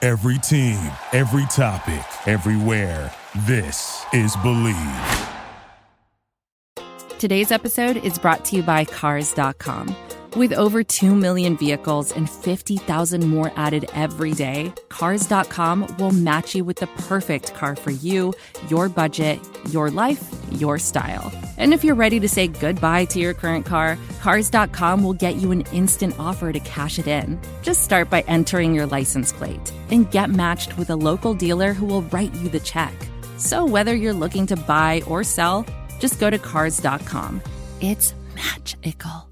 Every team, every topic, everywhere. This is Believe. Today's episode is brought to you by Cars.com. With over 2 million vehicles and 50,000 more added every day, Cars.com will match you with the perfect car for you, your budget, your life, your style. And if you're ready to say goodbye to your current car, Cars.com will get you an instant offer to cash it in. Just start by entering your license plate and get matched with a local dealer who will write you the check. So whether you're looking to buy or sell, just go to Cars.com. It's magical.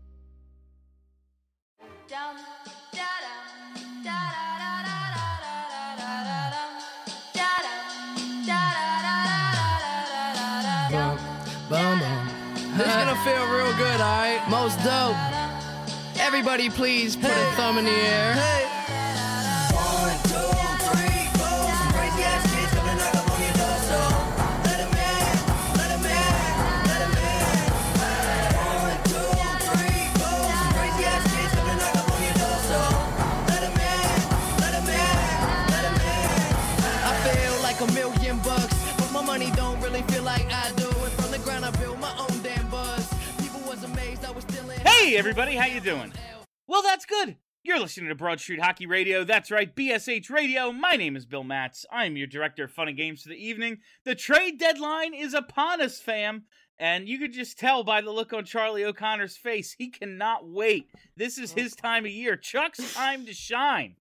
This is gonna feel real good, alright? Most dope. Everybody please put a thumb in the air. 1, 2, 3, 4. Some crazy ass kids coming knock up on your door, so let 'em in, let 'em in, let 'em in. 1, 2, 3, 4. Some crazy ass kids coming knock up on your door, so let 'em in, let 'em in, let 'em in. I feel like $1,000,000, but my money don't really feel like I do. And from the ground I built my own damn buzz. People was amazed I was still in. Hey everybody, how you doing? Well, that's good. You're listening to Broad Street Hockey Radio. That's right, BSH Radio. My name is Bill Matz. I'm your director of fun and games for the evening. The trade deadline is upon us, fam. And you could just tell by the look on Charlie O'Connor's face, he cannot wait. This is his time of year. Chuck's time to shine.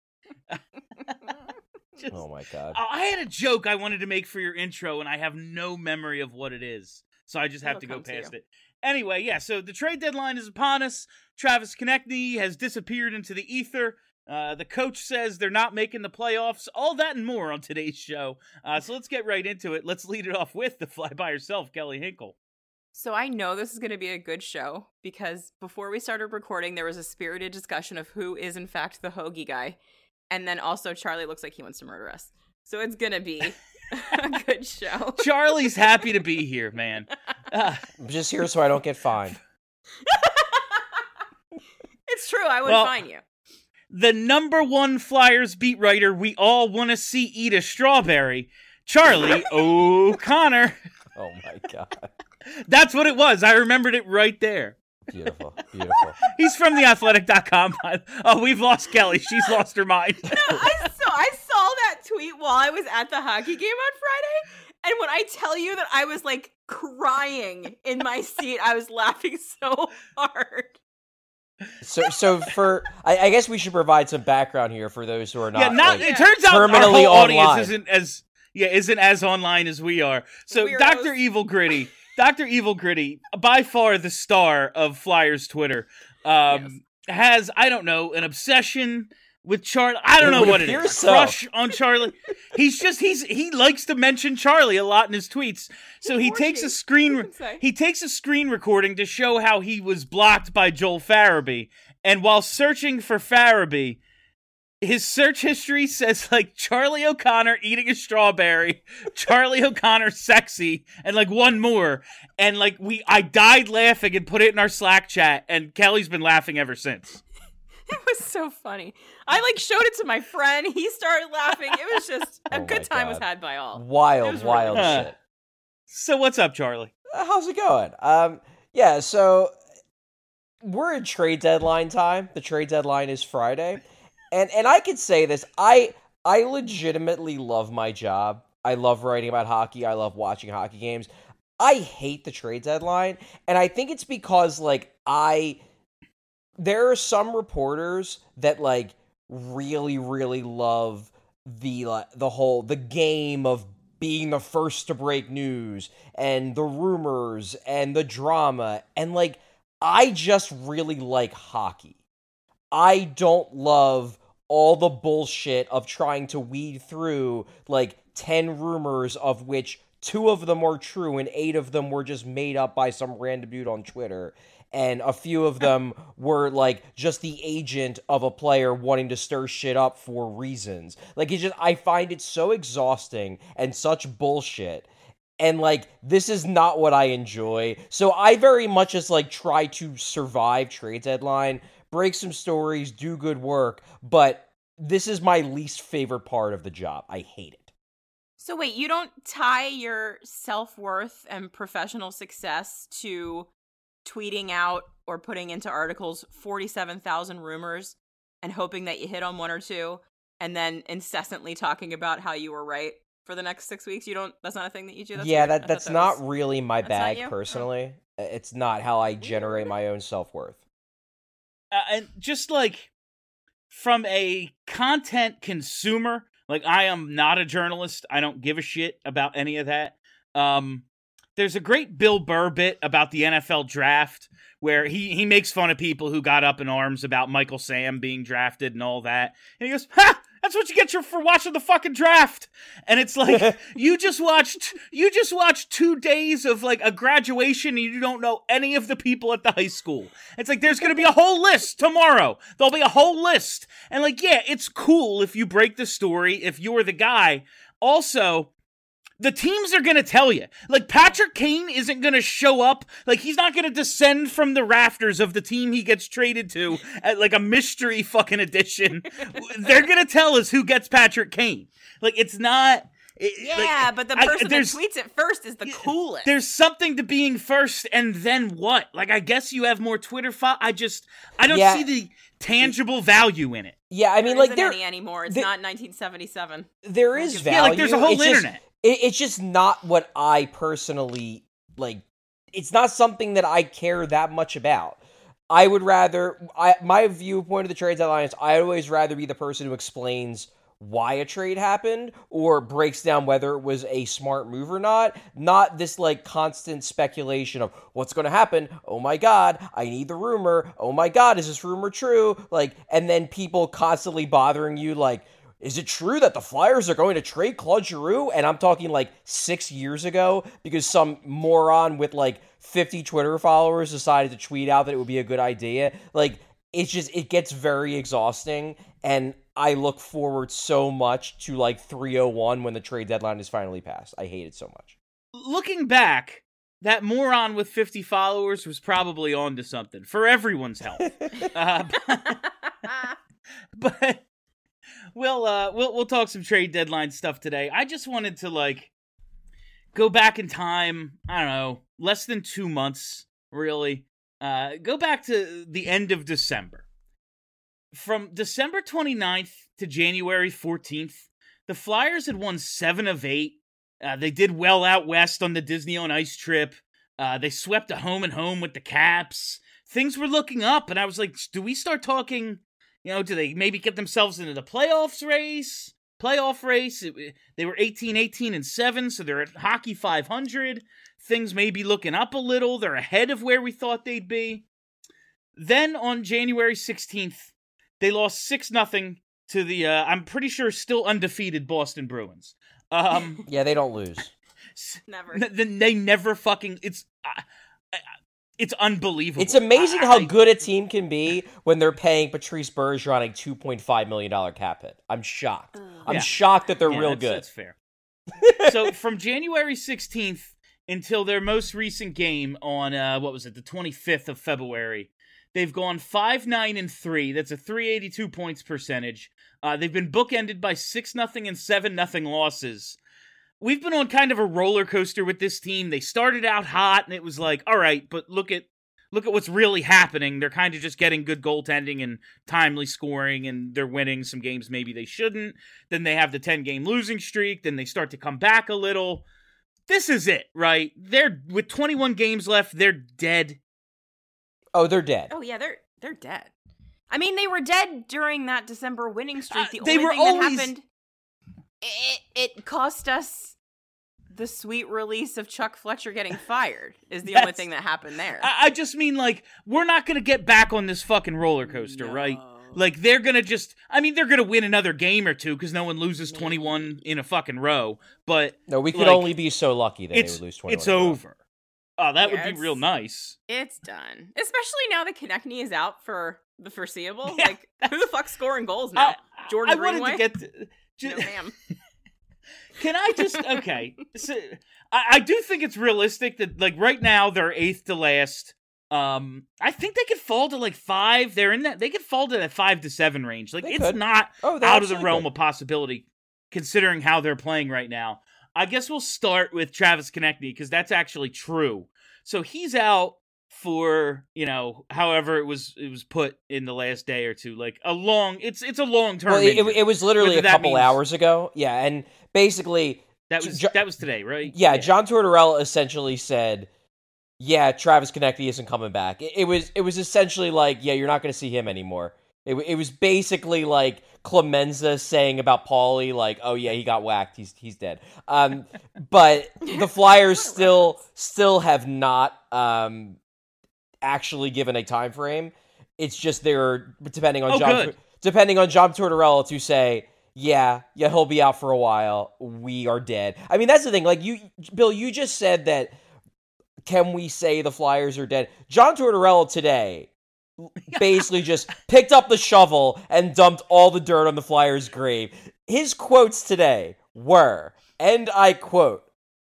Oh my God. I had a joke I wanted to make for your intro, and I have no memory of what it is. So I just have to go past it. Anyway, yeah, so the trade deadline is upon us. Travis Konecny has disappeared into the ether. The coach says they're not making the playoffs. All that and more on today's show. So let's get right into it. Let's lead it off with the fly by herself, Kelly Hinkle. So I know this is going to be a good show because before we started recording, there was a spirited discussion of who is in fact the hoagie guy. And then also Charlie looks like he wants to murder us. So it's going to be a good show. Charlie's happy to be here, man. I'm just here so I don't get fined. It's true. I would fine you. The #1 Flyers beat writer we all want to see eat a strawberry, Charlie O'Connor. Oh my God. That's what it was. I remembered it right there. Beautiful, beautiful. He's from theathletic.com. Oh, we've lost Kelly. She's lost her mind. No, I saw that tweet while I was at the hockey game on Friday. And when I tell you that I was like crying in my seat, I was laughing so hard. So for I guess we should provide some background here for those who are not. It turns out our terminally whole audience online. isn't as online as we are. So Weirdos. Dr. Evil Gritty, by far the star of Flyers Twitter, has, I don't know, an obsession with Charlie. I don't know what it is. So. Crush on Charlie. He likes to mention Charlie a lot in his tweets. So he takes a screen recording to show how he was blocked by Joel Farabee. And while searching for Farabee, his search history says, like, Charlie O'Connor eating a strawberry, Charlie O'Connor sexy, and, like, one more. And, like, I died laughing and put it in our Slack chat, and Kelly's been laughing ever since. It was so funny. I, like, showed it to my friend. He started laughing. It was just a good time was had by all. Wild shit. So what's up, Charlie? How's it going? Yeah, so we're in trade deadline time. The trade deadline is Friday. And I could say this, I legitimately love my job. I love writing about hockey. I love watching hockey games. I hate the trade deadline, and I think it's because, like, there are some reporters that, like, really, really love the game of being the first to break news and the rumors and the drama, and, like, I just really like hockey. I don't love all the bullshit of trying to weed through, like, 10 rumors of which 2 of them are true and 8 of them were just made up by some random dude on Twitter. And a few of them were, like, just the agent of a player wanting to stir shit up for reasons. Like, I find it so exhausting and such bullshit. And, like, this is not what I enjoy. So I very much just, like, try to survive trade deadline, break some stories, do good work, but this is my least favorite part of the job. I hate it. So wait, you don't tie your self-worth and professional success to tweeting out or putting into articles 47,000 rumors and hoping that you hit on one or two and then incessantly talking about how you were right for the next 6 weeks? That's not a thing that you do? That's yeah, weird. that's not really my That's not bag you? personally. It's not how I generate my own self-worth. And just like from a content consumer, like I am not a journalist. I don't give a shit about any of that. There's a great Bill Burr bit about the NFL draft where he makes fun of people who got up in arms about Michael Sam being drafted and all that. And he goes, "Ha! That's what you get for watching the fucking draft." And it's like, you just watched 2 days of like a graduation and you don't know any of the people at the high school. It's like, there's going to be a whole list tomorrow. There'll be a whole list. And like, yeah, it's cool if you break the story, if you're the guy. Also, the teams are going to tell you. Like, Patrick Kane isn't going to show up. Like, he's not going to descend from the rafters of the team he gets traded to at, like, a mystery fucking edition. They're going to tell us who gets Patrick Kane. Like, it's not... but the person that tweets it first is the coolest. There's something to being first, and then what? Like, I guess you have more Twitter I don't see the tangible value in it. Yeah, I mean, there like, isn't any anymore. It's not 1977. There is value. Yeah, like, there's a whole internet. It's just not what I personally, like, it's not something that I care that much about. I would rather, my viewpoint of the trade deadline is I'd always rather be the person who explains why a trade happened or breaks down whether it was a smart move or not this, like, constant speculation of what's going to happen. Oh my God, I need the rumor. Oh my God, is this rumor true? Like, and then people constantly bothering you, like, is it true that the Flyers are going to trade Claude Giroux? And I'm talking like 6 years ago because some moron with like 50 Twitter followers decided to tweet out that it would be a good idea. Like, it gets very exhausting. And I look forward so much to like 3:01 when the trade deadline is finally passed. I hate it so much. Looking back, that moron with 50 followers was probably on to something for everyone's health. But we'll talk some trade deadline stuff today. I just wanted to like go back in time. I don't know, less than 2 months, really. Go back to the end of December. From December 29th to January 14th, the Flyers had won 7 of 8. They did well out west on the Disney on Ice trip. They swept a home and home with the Caps. Things were looking up, and I was like, do we start talking? Do they maybe get themselves into the playoff race? They were 18-18-7, so they're at Hockey 500. Things may be looking up a little. They're ahead of where we thought they'd be. Then on January 16th, they lost 6-0 to the, I'm pretty sure, still undefeated Boston Bruins. Yeah, they don't lose. Never. They never fucking... It's unbelievable. It's amazing how good a team can be when they're paying Patrice Bergeron a $2.5 million cap hit. I'm shocked. I'm shocked that they're real good. That's fair. So from January 16th until their most recent game on, the 25th of February, they've gone 5-9-3. That's a .382 points percentage. They've been bookended by 6-0 and 7-0 losses. We've been on kind of a roller coaster with this team. They started out hot, and it was like, all right, but look at what's really happening. They're kind of just getting good goaltending and timely scoring, and they're winning some games maybe they shouldn't. Then they have the 10-game losing streak. Then they start to come back a little. This is it, right? They're with 21 games left. They're dead. Oh, they're dead. Oh yeah, they're dead. I mean, they were dead during that December winning streak. The they only were thing always... that happened, it cost us the sweet release of Chuck Fletcher getting fired is the only thing that happened there. I just mean, like, we're not going to get back on this fucking roller coaster, right? Like, they're going to they're going to win another game or two because no one loses 21 in a fucking row. But no, we could only be so lucky that they would lose 21. It's over. Oh, that would be real nice. It's done. Especially now that Konechny is out for the foreseeable. Yeah, like, who the fuck's scoring goals now? Jordan Greenway? I wanted to get... No, ma'am. Can I just... Okay. So, I do think it's realistic that, like, right now they're 8th to last. I think they could fall to like 5. They're in that. They could fall to that 5 to 7 range. Like They it's could. not Oh, they out of the absolutely realm could. of possibility, considering how they're playing right now. I guess we'll start with Travis Konechny because that's actually true. So he's out for, however it was put in the last day or two, like it's a long term. Well, it was literally Whether a that couple means- hours ago. Yeah, and basically, that was today, right? yeah, John Tortorella essentially said, "Yeah, Travis Konechny isn't coming back." It was essentially like, "Yeah, you're not going to see him anymore." It was basically like Clemenza saying about Paulie, like, "Oh yeah, he got whacked. He's dead." But the Flyers still have not actually given a time frame. It's just they're depending on John Tortorella to say, yeah, he'll be out for a while. We are dead. I mean, that's the thing. Like Bill, you just said that. Can we say the Flyers are dead? John Tortorella today basically just picked up the shovel and dumped all the dirt on the Flyers' grave. His quotes today were, and I quote,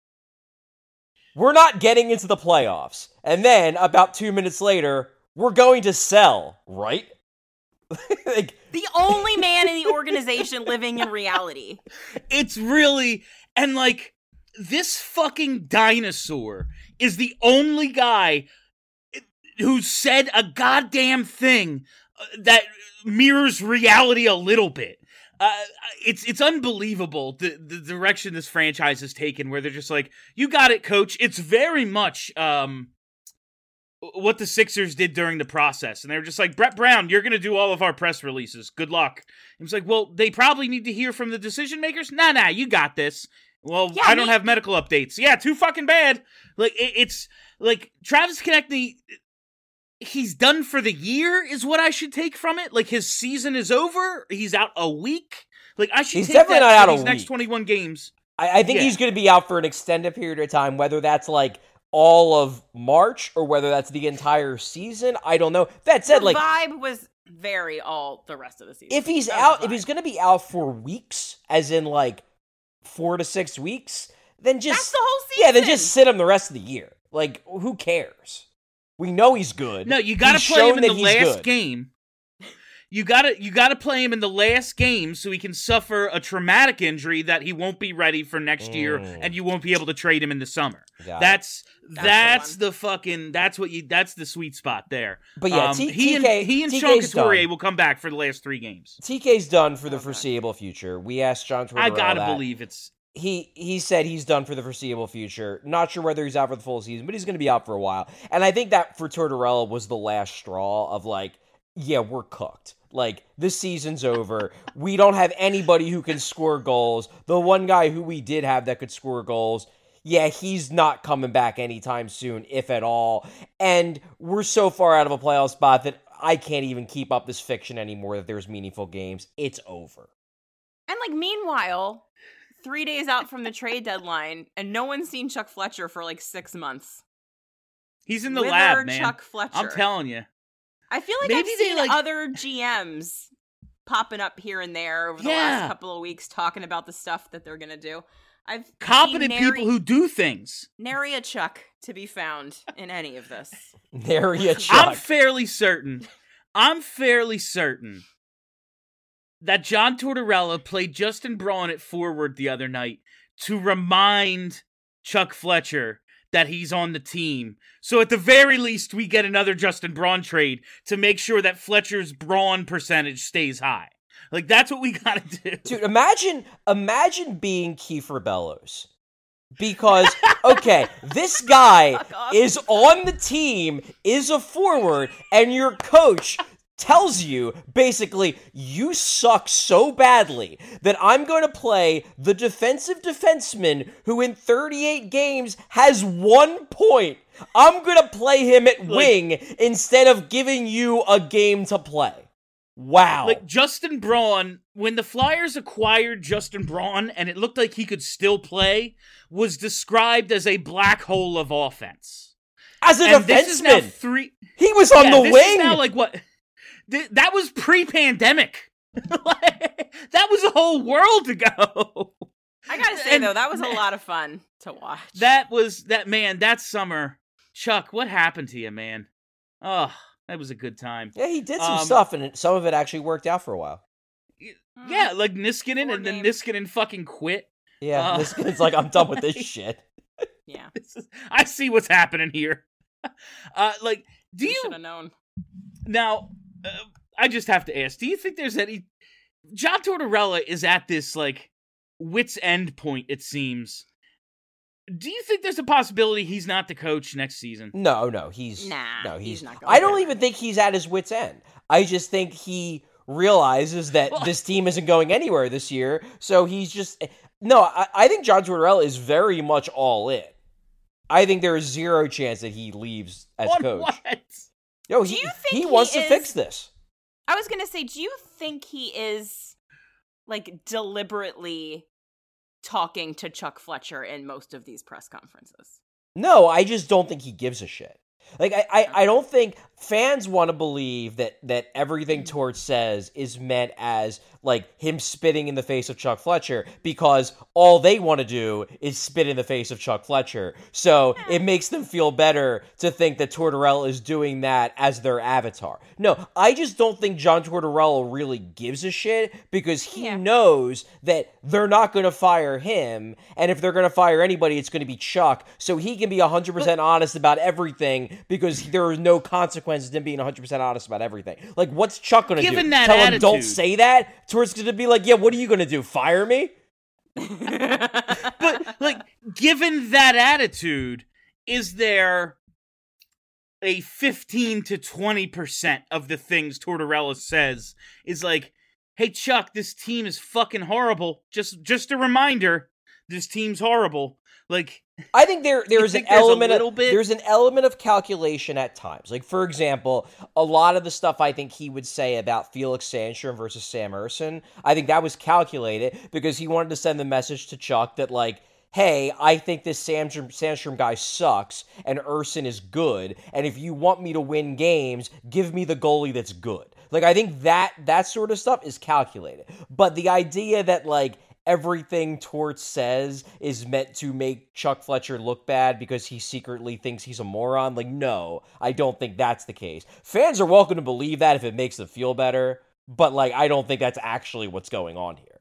"We're not getting into the playoffs." And then, about 2 minutes later, "We're going to sell, right?" Like, The only man in the organization living in reality. It's really, and like, this fucking dinosaur is the only guy who said a goddamn thing that mirrors reality a little bit. It's unbelievable the direction this franchise has taken, where they're just like, "You got it, coach." It's very much what the Sixers did during the process, and they were just like, "Brett Brown, you're going to do all of our press releases. Good luck." And it's like, well, they probably need to hear from the decision makers. Nah, you got this. Well, Yeah, I don't have medical updates. Yeah, too fucking bad. Like, it's like Travis Konechny, he's done for the year is what I should take from it. Like, his season is over. He's out a week. Like, I should He's take definitely that not out for a these next week. 21 games. I think Yeah. he's going to be out for an extended period of time, whether that's like all of March or whether that's the entire season. I don't know. That said, The like, vibe was very all the rest of the season. if he's That was out, the if he's vibe. going to be out for weeks, as in like 4 to 6 weeks, then just That's the whole season. yeah, then just sit him the rest of the year. Like, who cares? We know he's good. No, you got He's to play him shown in the that he's last good. game. You got to play him in the last game so he can suffer a traumatic injury that he won't be ready for next year, and you won't be able to trade him in the summer. Got it. That's the the fucking that's the sweet spot there. But yeah, he and TK's Sean Couturier done. will come back for the last 3 games. TK's done for the foreseeable future. We asked John Tortorella I gotta that. believe it's. He said he's done for the foreseeable future. Not sure whether he's out for the full season, but he's going to be out for a while. And I think that for Tortorella was the last straw of like, yeah, we're cooked. Like, this season's over. We don't have anybody who can score goals. The one guy who we did have that could score goals, yeah, he's not coming back anytime soon, if at all. And we're so far out of a playoff spot that I can't even keep up this fiction anymore that there's meaningful games. It's over. And like meanwhile, 3 days out from the trade deadline, and no one's seen Chuck Fletcher for like 6 months. He's in the Wither lab, man. Chuck Fletcher. I'm telling you. I feel like Maybe I've they, seen like- other GMs popping up here and there over the Yeah. last couple of weeks talking about the stuff that they're gonna do. I've Competent seen people who do things. nary a Chuck to be found in any of this. There you I'm Chuck. fairly certain that John Tortorella played Justin Braun at forward the other night to remind Chuck Fletcher that he's on the team. So at the very least, we get another Justin Braun trade to make sure that Fletcher's Braun percentage stays high. Like, that's what we gotta do. Dude, imagine being Kiefer Bellows. Because, okay, this guy Fuck off. is on the team, is a forward, and your coach tells you, basically, you suck so badly that I'm going to play the defensive defenseman who in 38 games has 1 point. I'm going to play him at wing instead of giving you a game to play. Wow. Like, Justin Braun, when the Flyers acquired Justin Braun and it looked like he could still play, was described as a black hole of offense. As a And this is now defenseman, he was on the this wing. Is now like what? That was pre-pandemic. That was a whole world ago. I gotta say And- though, that was a lot of fun to watch. That summer. Chuck, what happened to you, man? Oh, that was a good time. Yeah, he did some stuff, and some of it actually worked out for a while. Yeah, like Niskanen, Poor and then game. Uh-huh. Niskanen fucking quit. Yeah, Niskanen like, I'm done with this shit. Yeah. I see what's happening here. Like, do you should have known? now? I just have to ask: do you think there's any? John Tortorella is at this like wit's end point. It seems. Do you think there's a possibility he's not the coach next season? No, He's not going I don't there. even think he's at his wit's end. I just think he realizes that this team isn't going anywhere this year, so he's just no. I think John Tortorella is very much all in. I think there is zero chance that he leaves as On coach. what? No, Do you think he he wants to is- fix this. I was gonna say, do you think he is like deliberately talking to Chuck Fletcher in most of these press conferences? No, I just don't think he gives a shit. Like I don't think fans want to believe that everything Torch says is meant as like him spitting in the face of Chuck Fletcher, because all they want to do is spit in the face of Chuck Fletcher. So it makes them feel better to think that Tortorella is doing that as their avatar. No, I just don't think John Tortorella really gives a shit, because he knows that they're not going to fire him, and if they're going to fire anybody, it's going to be Chuck. So he can be 100% honest about everything, because there are no consequences to him being 100% honest about everything. Like, what's Chuck going to do? Given that Tell him, attitude. don't say that? Tor's going to be like, yeah, what are you going to do? Fire me? But like, given that attitude, is there a 15 to 20% of the things Tortorella says is like, hey Chuck, this team is fucking horrible. Just a reminder, this team's horrible. Like, I think there's an think there's a element little of bit? there's an element of calculation at times. Like, for example, a lot of the stuff I think he would say about Felix Sandstrom versus Sam Urson, I think that was calculated because he wanted to send the message to Chuck that, like, hey, I think this Sandstrom guy sucks and Urson is good, and if you want me to win games, give me the goalie that's good. Like, I think that sort of stuff is calculated. But the idea that, like, everything Torch says is meant to make Chuck Fletcher look bad because he secretly thinks he's a moron, like, no, I don't think that's the case. Fans are welcome to believe that if it makes them feel better, but, like, I don't think that's actually what's going on here.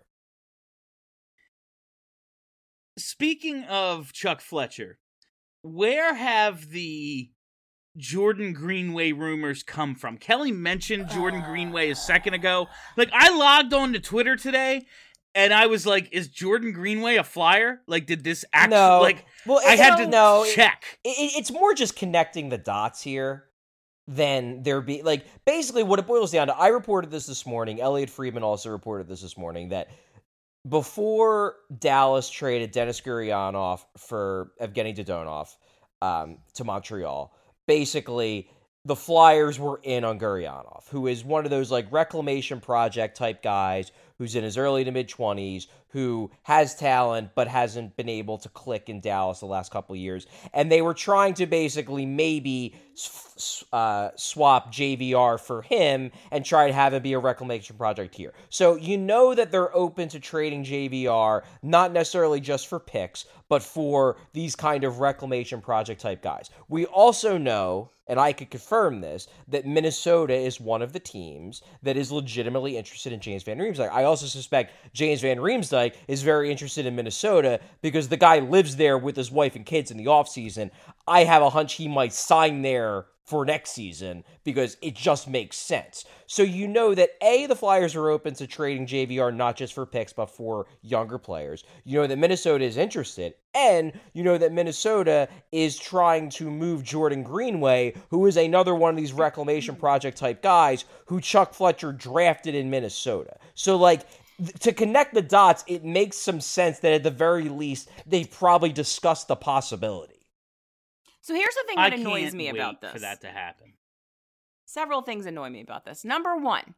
speaking of Chuck Fletcher, where have the Jordan Greenway rumors come from? Kelly mentioned Jordan Greenway a second ago. Like, I logged on to Twitter today, and I was like, is Jordan Greenway a Flyer? Like, did this actually, No. like, Well, I had to check. It's more just connecting the dots here than there be, like, basically what it boils down to. I reported this morning. Elliot Friedman also reported this morning, that before Dallas traded Denis Gurianov for Evgeny Dodonov to Montreal, basically the Flyers were in on Gurianov, who is one of those, like, reclamation project type guys who's in his early to mid-20s, who has talent but hasn't been able to click in Dallas the last couple of years. And they were trying to basically maybe swap JVR for him and try to have it be a reclamation project here. So you know that they're open to trading JVR, not necessarily just for picks, but for these kind of reclamation project type guys. We also know, and I could confirm this, that Minnesota is one of the teams that is legitimately interested in James Van Riemsdyk. I also suspect James Van Riemsdyk is very interested in Minnesota because the guy lives there with his wife and kids in the offseason. I have a hunch he might sign there for next season because it just makes sense. So you know that A, the Flyers are open to trading JVR not just for picks but for younger players. You know that Minnesota is interested, and you know that Minnesota is trying to move Jordan Greenway, who is another one of these reclamation project type guys who Chuck Fletcher drafted in Minnesota. So, like, to connect the dots, it makes some sense that at the very least they've probably discussed the possibility. So here's the thing I that annoys can't me wait about this. for that to happen. Several things annoy me about this. Number one,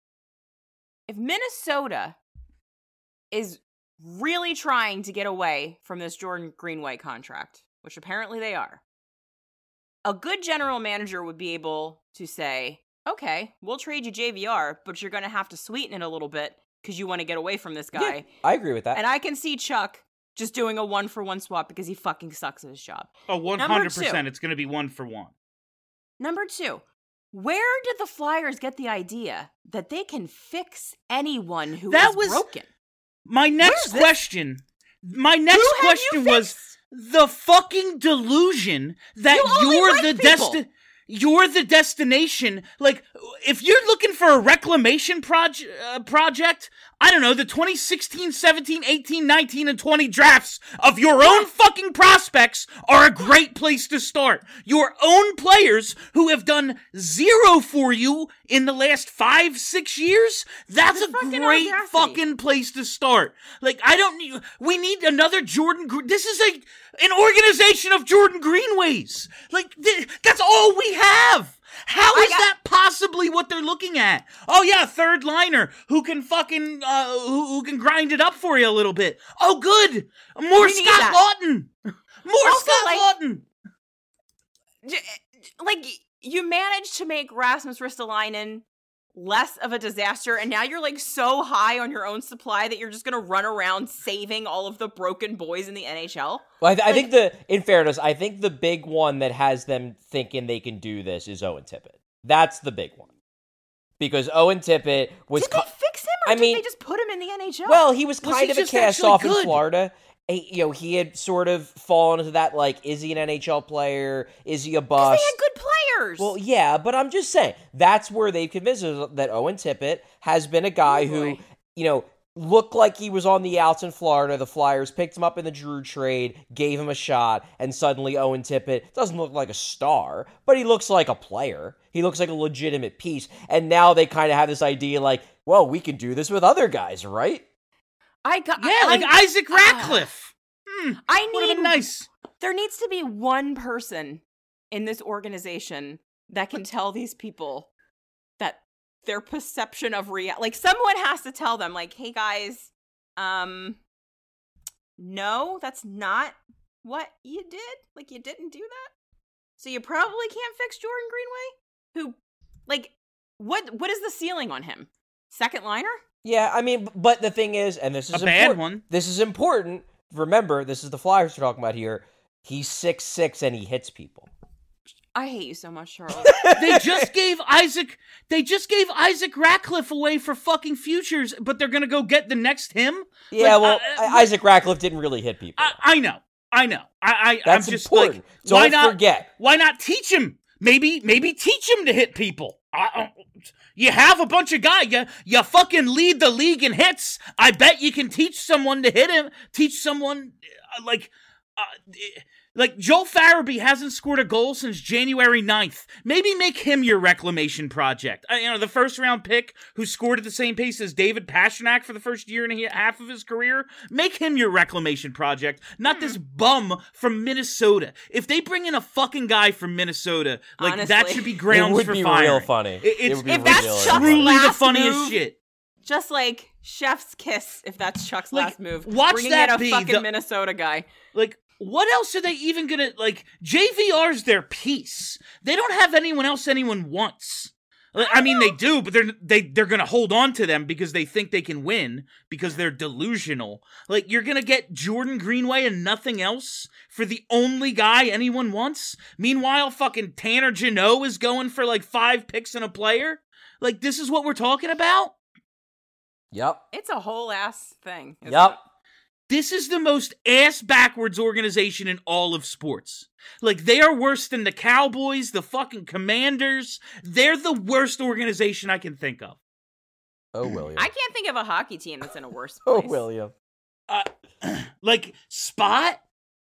if Minnesota is really trying to get away from this Jordan Greenway contract, which apparently they are, a good general manager would be able to say, okay, we'll trade you JVR, but you're going to have to sweeten it a little bit because you want to get away from this guy. Yeah, I agree with that. And I can see Chuck just doing a 1-for-1 swap because he fucking sucks at his job. Oh, 100%. It's going to be 1-for-1. Number two, Where did the Flyers get the idea that they can fix anyone who That is was- broken? My next question. My next Who have you question was fixed? the fucking delusion that You only you're like the people. you're the destination. Like, if you're looking for a reclamation project, I don't know, the 2016, 17, 18, 19, and 20 drafts of your own fucking prospects are a great place to start. Your own players who have done zero for you in the last 5-6 years, that's The a fucking great audacity. fucking place to start. Like, we need another Jordan this is an organization of Jordan Greenways. Like, that's all we have. How is that possibly what they're looking at? Oh yeah, third liner who can fucking who can grind it up for you a little bit. Oh good, more We need Scott that. Lawton, more Also, Scott like- Lawton. Like, you managed to make Rasmus Ristolainen less of a disaster, and now you're like so high on your own supply that you're just gonna run around saving all of the broken boys in the NHL. Well, I think in fairness, I think the big one that has them thinking they can do this is Owen Tippett. That's the big one. Because Owen Tippett was... Did they fix him, or I did mean- they just put him in the NHL? Well, he was Was kind he of a just cast actually off in good? Florida. He had sort of fallen into that, like, is he an NHL player? Is he a because bust? they had good players. Well, yeah, but I'm just saying, that's where they've convinced us that Owen Tippett has been a guy who, boy. Looked like he was on the outs in Florida. The Flyers picked him up in the Drew trade, gave him a shot, and suddenly Owen Tippett doesn't look like a star, but he looks like a player. He looks like a legitimate piece. And now they kind of have this idea like, well, we can do this with other guys, right? Isaac Ratcliffe. I Would have need been nice. There needs to be one person in this organization that can tell these people that their perception of reality, like, someone has to tell them, like, hey guys, no, that's not what you did. Like, you didn't do that. So you probably can't fix Jordan Greenway, who, like, what is the ceiling on him? Second liner? Yeah, I mean, but the thing is, and this is A bad important. one. This is important. Remember, this is the Flyers we're talking about here. He's 6'6" and he hits people. I hate you so much, Charles. They just gave Isaac Ratcliffe away for fucking futures, but they're gonna go get the next him. Yeah, Like, Isaac Ratcliffe didn't really hit people. I know. That's I'm just important. like, Don't why not forget. Why not teach him? Maybe teach him to hit people. You have a bunch of guys. You fucking lead the league in hits. I bet you can teach someone to hit him. Teach someone like Joel Farabee hasn't scored a goal since January 9th. Maybe make him your reclamation project. The first round pick who scored at the same pace as David Pastrnak for the first year and a half of his career. Make him your reclamation project, not this bum from Minnesota. If they bring in a fucking guy from Minnesota, like, that Honestly. should be grounds It would for be firing. real funny. It's It would be If that's really Chuck's funny. truly the last funniest move, shit. Just like Chef's Kiss, if that's Chuck's Like, last move. watch Bringing that in a be fucking the- Minnesota guy. Like, what else are they even gonna, like, JVR's their piece. They don't have anyone else anyone wants. I mean, they do, but they're gonna hold on to them because they think they can win, because they're delusional. Like, you're gonna get Jordan Greenway and nothing else for the only guy anyone wants? Meanwhile, fucking Tanner Jeannot is going for, like, 5 picks and a player? Like, this is what we're talking about? Yep. It's a whole ass thing. isn't Yep. it? This is the most ass-backwards organization in all of sports. Like, they are worse than the Cowboys, the fucking Commanders. They're the worst organization I can think of. Oh, William. I can't think of a hockey team that's in a worse Oh, place. William. Like, Spot?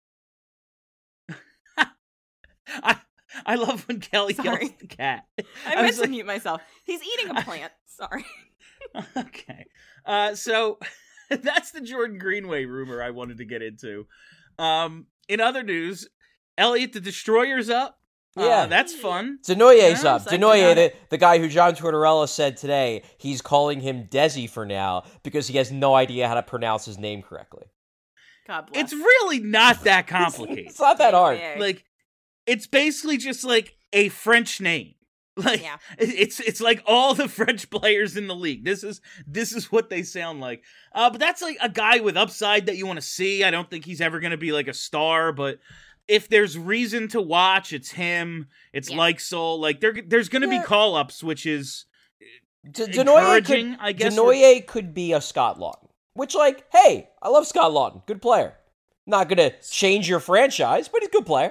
I love when Kelly yells Sorry. at the cat. I meant was to like- mute myself. He's eating a plant. Sorry. Okay. So that's the Jordan Greenway rumor I wanted to get into. In other news, Elliot the Destroyer's up. Yeah. That's fun. Denoye's Yeah, up. psyched Denoye, about the guy who John Tortorella said today, he's calling him Desi for now because he has no idea how to pronounce his name correctly. God bless. It's really not that complicated. It's not that hard. Yeah. Like, it's basically just like a French name. Like, Yeah. it's like all the French players in the league. This is what they sound like. But that's like a guy with upside that you want to see. I don't think he's ever going to be like a star, but if there's reason to watch, it's him. It's like Soul. Like there's going to be call ups, which is encouraging. I guess Denoye could be a Scott Lawton, which like, hey, I love Scott Lawton, good player. Not going to change your franchise, but he's a good player.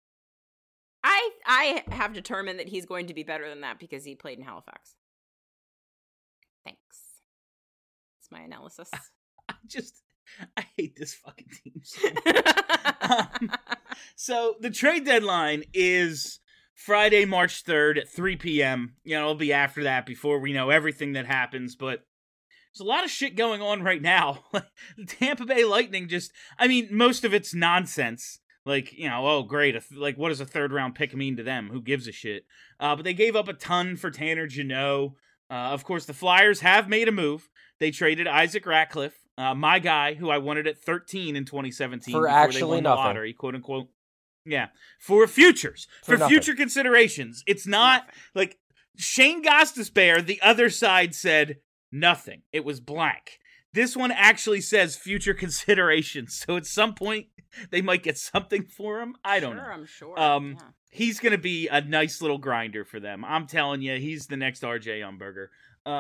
I have determined that he's going to be better than that because he played in Halifax. Thanks. That's my analysis. I hate this fucking team so much. So the trade deadline is Friday, March 3rd at 3 p.m. You know, it'll be after that before we know everything that happens, but there's a lot of shit going on right now. The Tampa Bay Lightning most of it's nonsense. Like, you know, oh, great. What does a third-round pick mean to them? Who gives a shit? But they gave up a ton for Tanner Jeannot. Of course, the Flyers have made a move. They traded Isaac Ratcliffe, my guy, who I wanted at 13 in 2017. For actually nothing. The lottery, quote unquote. Yeah. For futures. For future considerations. It's not like Shane Gostisbehere, the other side said nothing. It was blank. This one actually says future considerations. So at some point, they might get something for him. I don't know. I'm sure. He's going to be a nice little grinder for them. I'm telling you, he's the next RJ Umberger.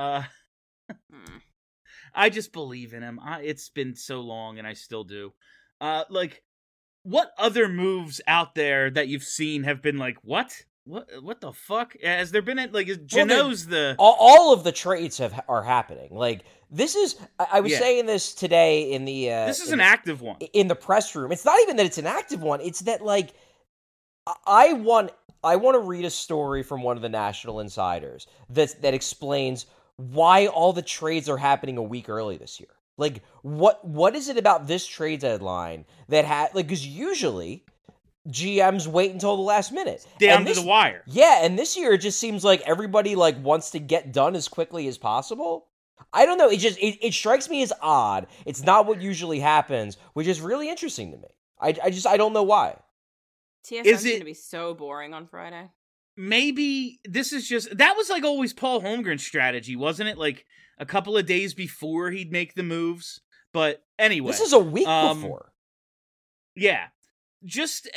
I just believe in him. It's been so long, and I still do. What other moves out there that you've seen have been like, what? What the fuck? Has there been Jeannot's all of the trades are happening. Like this is I was saying this today in the this is an active one in the press room. It's not even that it's an active one. It's that like I want to read a story from one of the National Insiders that explains why all the trades are happening a week early this year. Like what is it about this trade deadline that because usually GMs wait until the last minute. Down to the wire. Yeah, and this year it just seems like everybody wants to get done as quickly as possible. I don't know, it strikes me as odd. It's not what usually happens, which is really interesting to me. I don't know why. TSN's going to be so boring on Friday. Maybe this is that was always Paul Holmgren's strategy, wasn't it? Like a couple of days before he'd make the moves. But anyway. This is a week before. Yeah. Just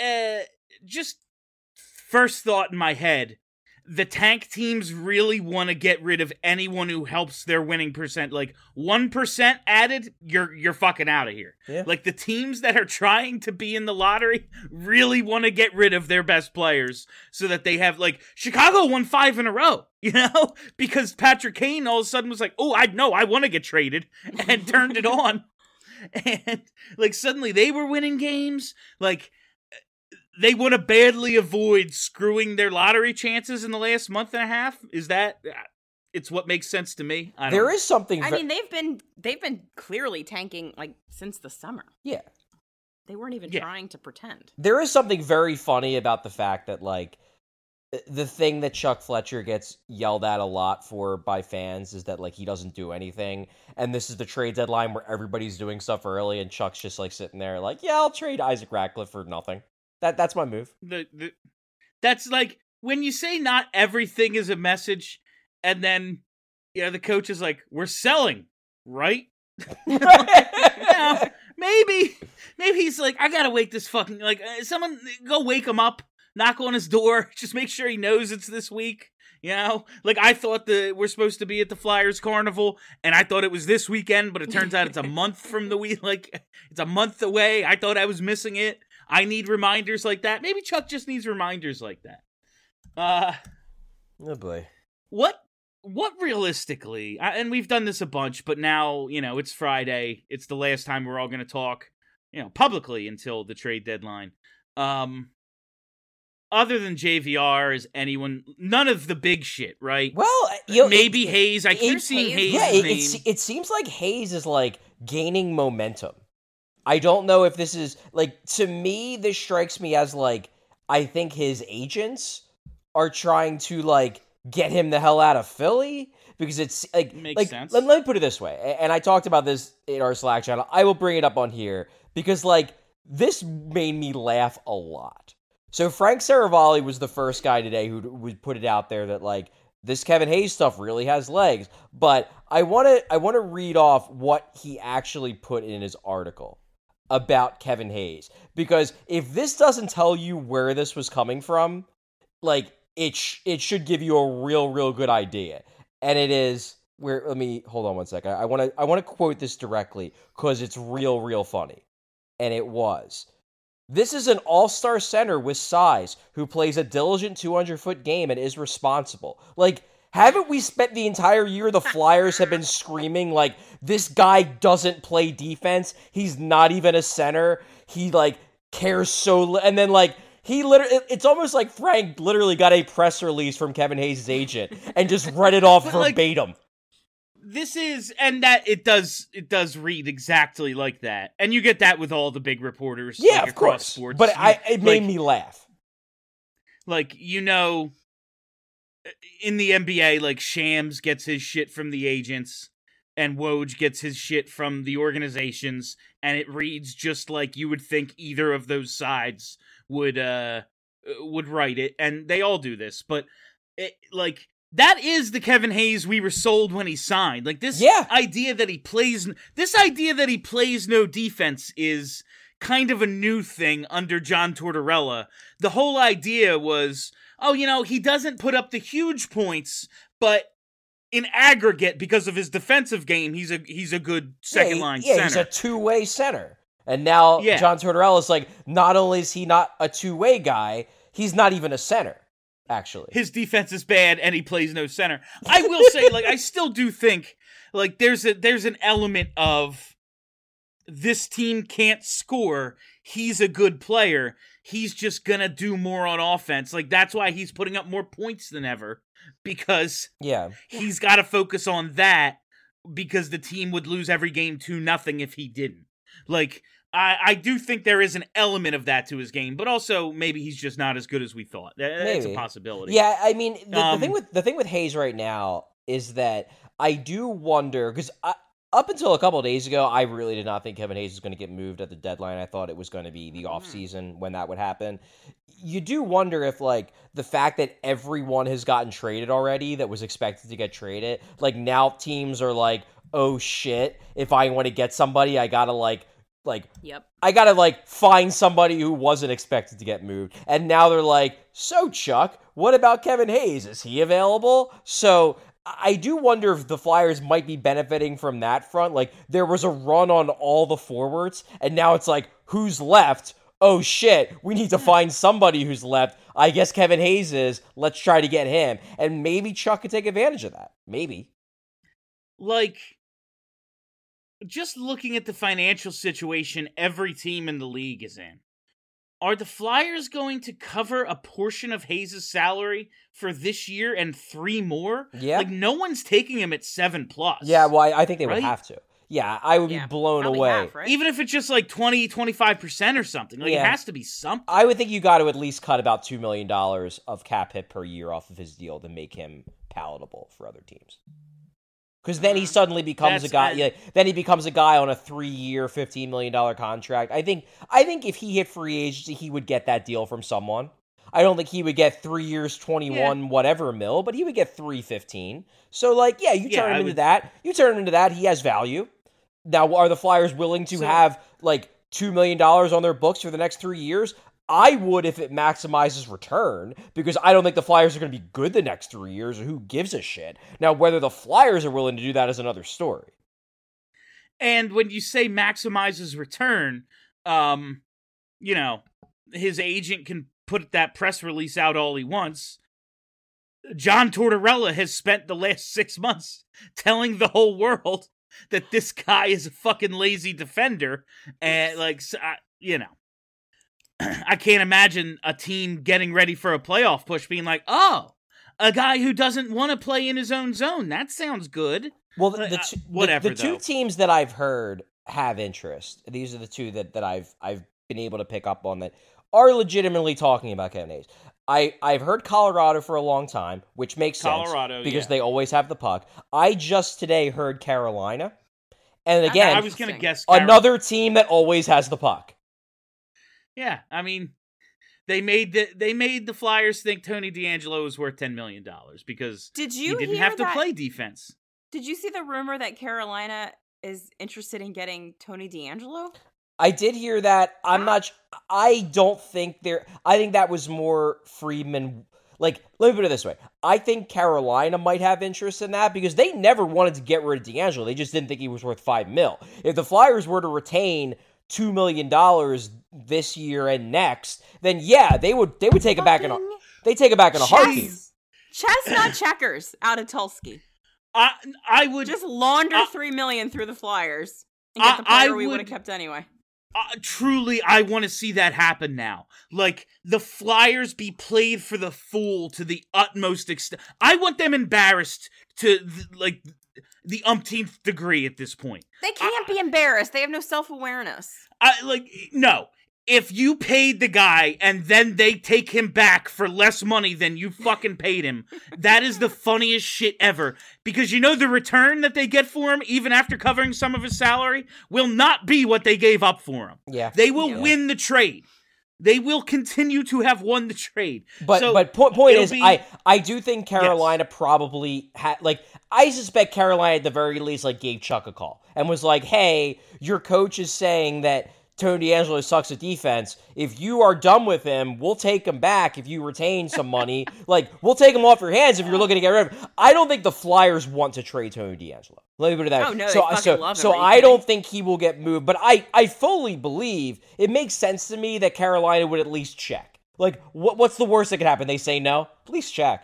first thought in my head, the tank teams really want to get rid of anyone who helps their winning percent. Like 1% added, you're fucking out of here. Yeah. Like the teams that are trying to be in the lottery really want to get rid of their best players so that they have Chicago won 5 in a row, you know, because Patrick Kane all of a sudden was like, oh, I want to get traded and turned it on. And suddenly they were winning games. They want to badly avoid screwing their lottery chances in the last month and a half. Is that? It's what makes sense to me. There is something. I mean, they've been clearly tanking since the summer. Yeah, they weren't even trying to pretend. There is something very funny about the fact that the thing that Chuck Fletcher gets yelled at a lot for by fans is that he doesn't do anything, and this is the trade deadline where everybody's doing stuff early, and Chuck's just sitting there yeah, I'll trade Isaac Ratcliffe for nothing. That's my move. That's when you say not everything is a message, and then the coach is we're selling, right? Maybe he's I gotta wake this fucking someone go wake him up. Knock on his door. Just make sure he knows it's this week. You know? I thought we're supposed to be at the Flyers Carnival, and I thought it was this weekend, but it turns out it's a month from the week. It's a month away. I thought I was missing it. I need reminders like that. Maybe Chuck just needs reminders like that. Oh, boy. What realistically, and we've done this a bunch, but now, it's Friday. It's the last time we're all going to talk, publicly until the trade deadline. Other than JVR, is anyone... None of the big shit, right? Well, maybe Hayes. I keep seeing Hayes' name. It seems like Hayes is, gaining momentum. I don't know if this is... to me, this strikes me as, I think his agents are trying to, get him the hell out of Philly. Because it's, Makes sense. Let me put it this way. And I talked about this in our Slack channel. I will bring it up on here. Because, this made me laugh a lot. So Frank Saravalli was the first guy today who would put it out there that this Kevin Hayes stuff really has legs. But I want to read off what he actually put in his article. about Kevin Hayes. Because if this doesn't tell you where this was coming from, like, it should give you a real good idea. And it is... let me... Hold on one second. I want to quote this directly, because it's real funny. And it was... This is an all-star center with size who plays a diligent 200-foot game and is responsible. Like, haven't we spent the entire year the Flyers have been screaming, like, this guy doesn't play defense, he's not even a center, he, like, cares so... And then, like, he literally... It's almost like Frank literally got a press release from Kevin Hayes' agent and just read it off verbatim. This is, and that it does read exactly like that, and you get that with all the big reporters, yeah, like, of across course. sports. But it made me laugh. Like, you know, in the NBA, like, Shams gets his shit from the agents, and Woj gets his shit from the organizations, and it reads just like you would think either of those sides would write it, and they all do this, but like. That is the Kevin Hayes we were sold when he signed. Like, this idea that he plays no defense is kind of a new thing under John Tortorella. The whole idea was, oh, you know, he doesn't put up the huge points, but in aggregate, because of his defensive game, he's a good second line center. Yeah, he's a two-way center. And now John Tortorella's like, not only is he not a two-way guy, he's not even a center. Actually, his defense is bad, and he plays no center. I will say, like, I still do think, like, there's an element of this team can't score. He's a good player. He's just gonna do more on offense. Like, that's why he's putting up more points than ever, because he's got to focus on that, because the team would lose every game 2-0 if he didn't. Like, I do think there is an element of that to his game, but also maybe he's just not as good as we thought. That's a possibility. Yeah, I mean, the thing with Hayes right now is that I do wonder, because up until a couple of days ago, I really did not think Kevin Hayes was going to get moved at the deadline. I thought it was going to be the offseason when that would happen. You do wonder if, like, the fact that everyone has gotten traded already that was expected to get traded, like, now teams are like, oh shit, if I want to get somebody, I gotta, I gotta, find somebody who wasn't expected to get moved. And now they're like, so, Chuck, what about Kevin Hayes? Is he available? So, I do wonder if the Flyers might be benefiting from that front. Like, there was a run on all the forwards, and now it's like, who's left? Oh, shit, we need to find somebody who's left. I guess Kevin Hayes is. Let's try to get him. And maybe Chuck could take advantage of that. Maybe. Like, just looking at the financial situation every team in the league is in, are the Flyers going to cover a portion of Hayes' salary for this year and 3 more? Yeah. Like, no one's taking him at 7+. Yeah, well, I think they would have to. Yeah, I would be blown away. Half, right? Even if it's just like 20-25% or something. Like, it has to be something. I would think you got to at least cut about $2 million of cap hit per year off of his deal to make him palatable for other teams. Because then he suddenly becomes a guy. Then he becomes a guy on a 3-year, $15 million contract. I think if he hit free agency, he would get that deal from someone. I don't think he would get 3 years, 21 whatever mil, but he would get 315. So, you turn him into that. You turn him into that. He has value. Now, are the Flyers willing to have $2 million on their books for the next 3 years? I would if it maximizes return, because I don't think the Flyers are going to be good the next 3 years, or who gives a shit. Now, whether the Flyers are willing to do that is another story. And when you say maximizes return, his agent can put that press release out all he wants. John Tortorella has spent the last 6 months telling the whole world that this guy is a fucking lazy defender, and I can't imagine a team getting ready for a playoff push being like, oh, a guy who doesn't want to play in his own zone. That sounds good. Well, the two teams that I've heard have interest. These are the two that I've been able to pick up on that are legitimately talking about Kevin Hayes. I've heard Colorado for a long time, which makes sense because they always have the puck. I just today heard Carolina. And again, I was going to guess another team that always has the puck. Yeah, I mean, they made the Flyers think Tony DeAngelo was worth $10 million because he didn't have to play defense. Did you see the rumor that Carolina is interested in getting Tony DeAngelo? I did hear that. I don't think I think that was more Friedman. Like, let me put it this way. I think Carolina might have interest in that because they never wanted to get rid of D'Angelo. They just didn't think he was worth $5 million. If the Flyers were to retain $2 million this year and next, then yeah, they would take it back in a heartbeat. Chestnut checkers out of Tulski. I would just launder $3 million through the Flyers and get the player we would have kept anyway. Truly, I want to see that happen now. Like, the Flyers be played for the fool to the utmost extent. I want them embarrassed to, the umpteenth degree at this point. They can't be embarrassed. They have no self-awareness. No. If you paid the guy and then they take him back for less money than you fucking paid him, that is the funniest shit ever. Because the return that they get for him, even after covering some of his salary, will not be what they gave up for him. Yeah. They will win the trade. They will continue to have won the trade. But point is, I do think Carolina probably had, I suspect Carolina at the very least, gave Chuck a call and was like, hey, your coach is saying that Tony D'Angelo sucks at defense. If you are done with him, we'll take him back if you retain some money. We'll take him off your hands if you're looking to get rid of him. I don't think the Flyers want to trade Tony D'Angelo. Let me put it that way. Oh, no, they fucking love him. So I don't think he will get moved, but I fully believe it makes sense to me that Carolina would at least check. What's the worst that could happen? They say no? At least check.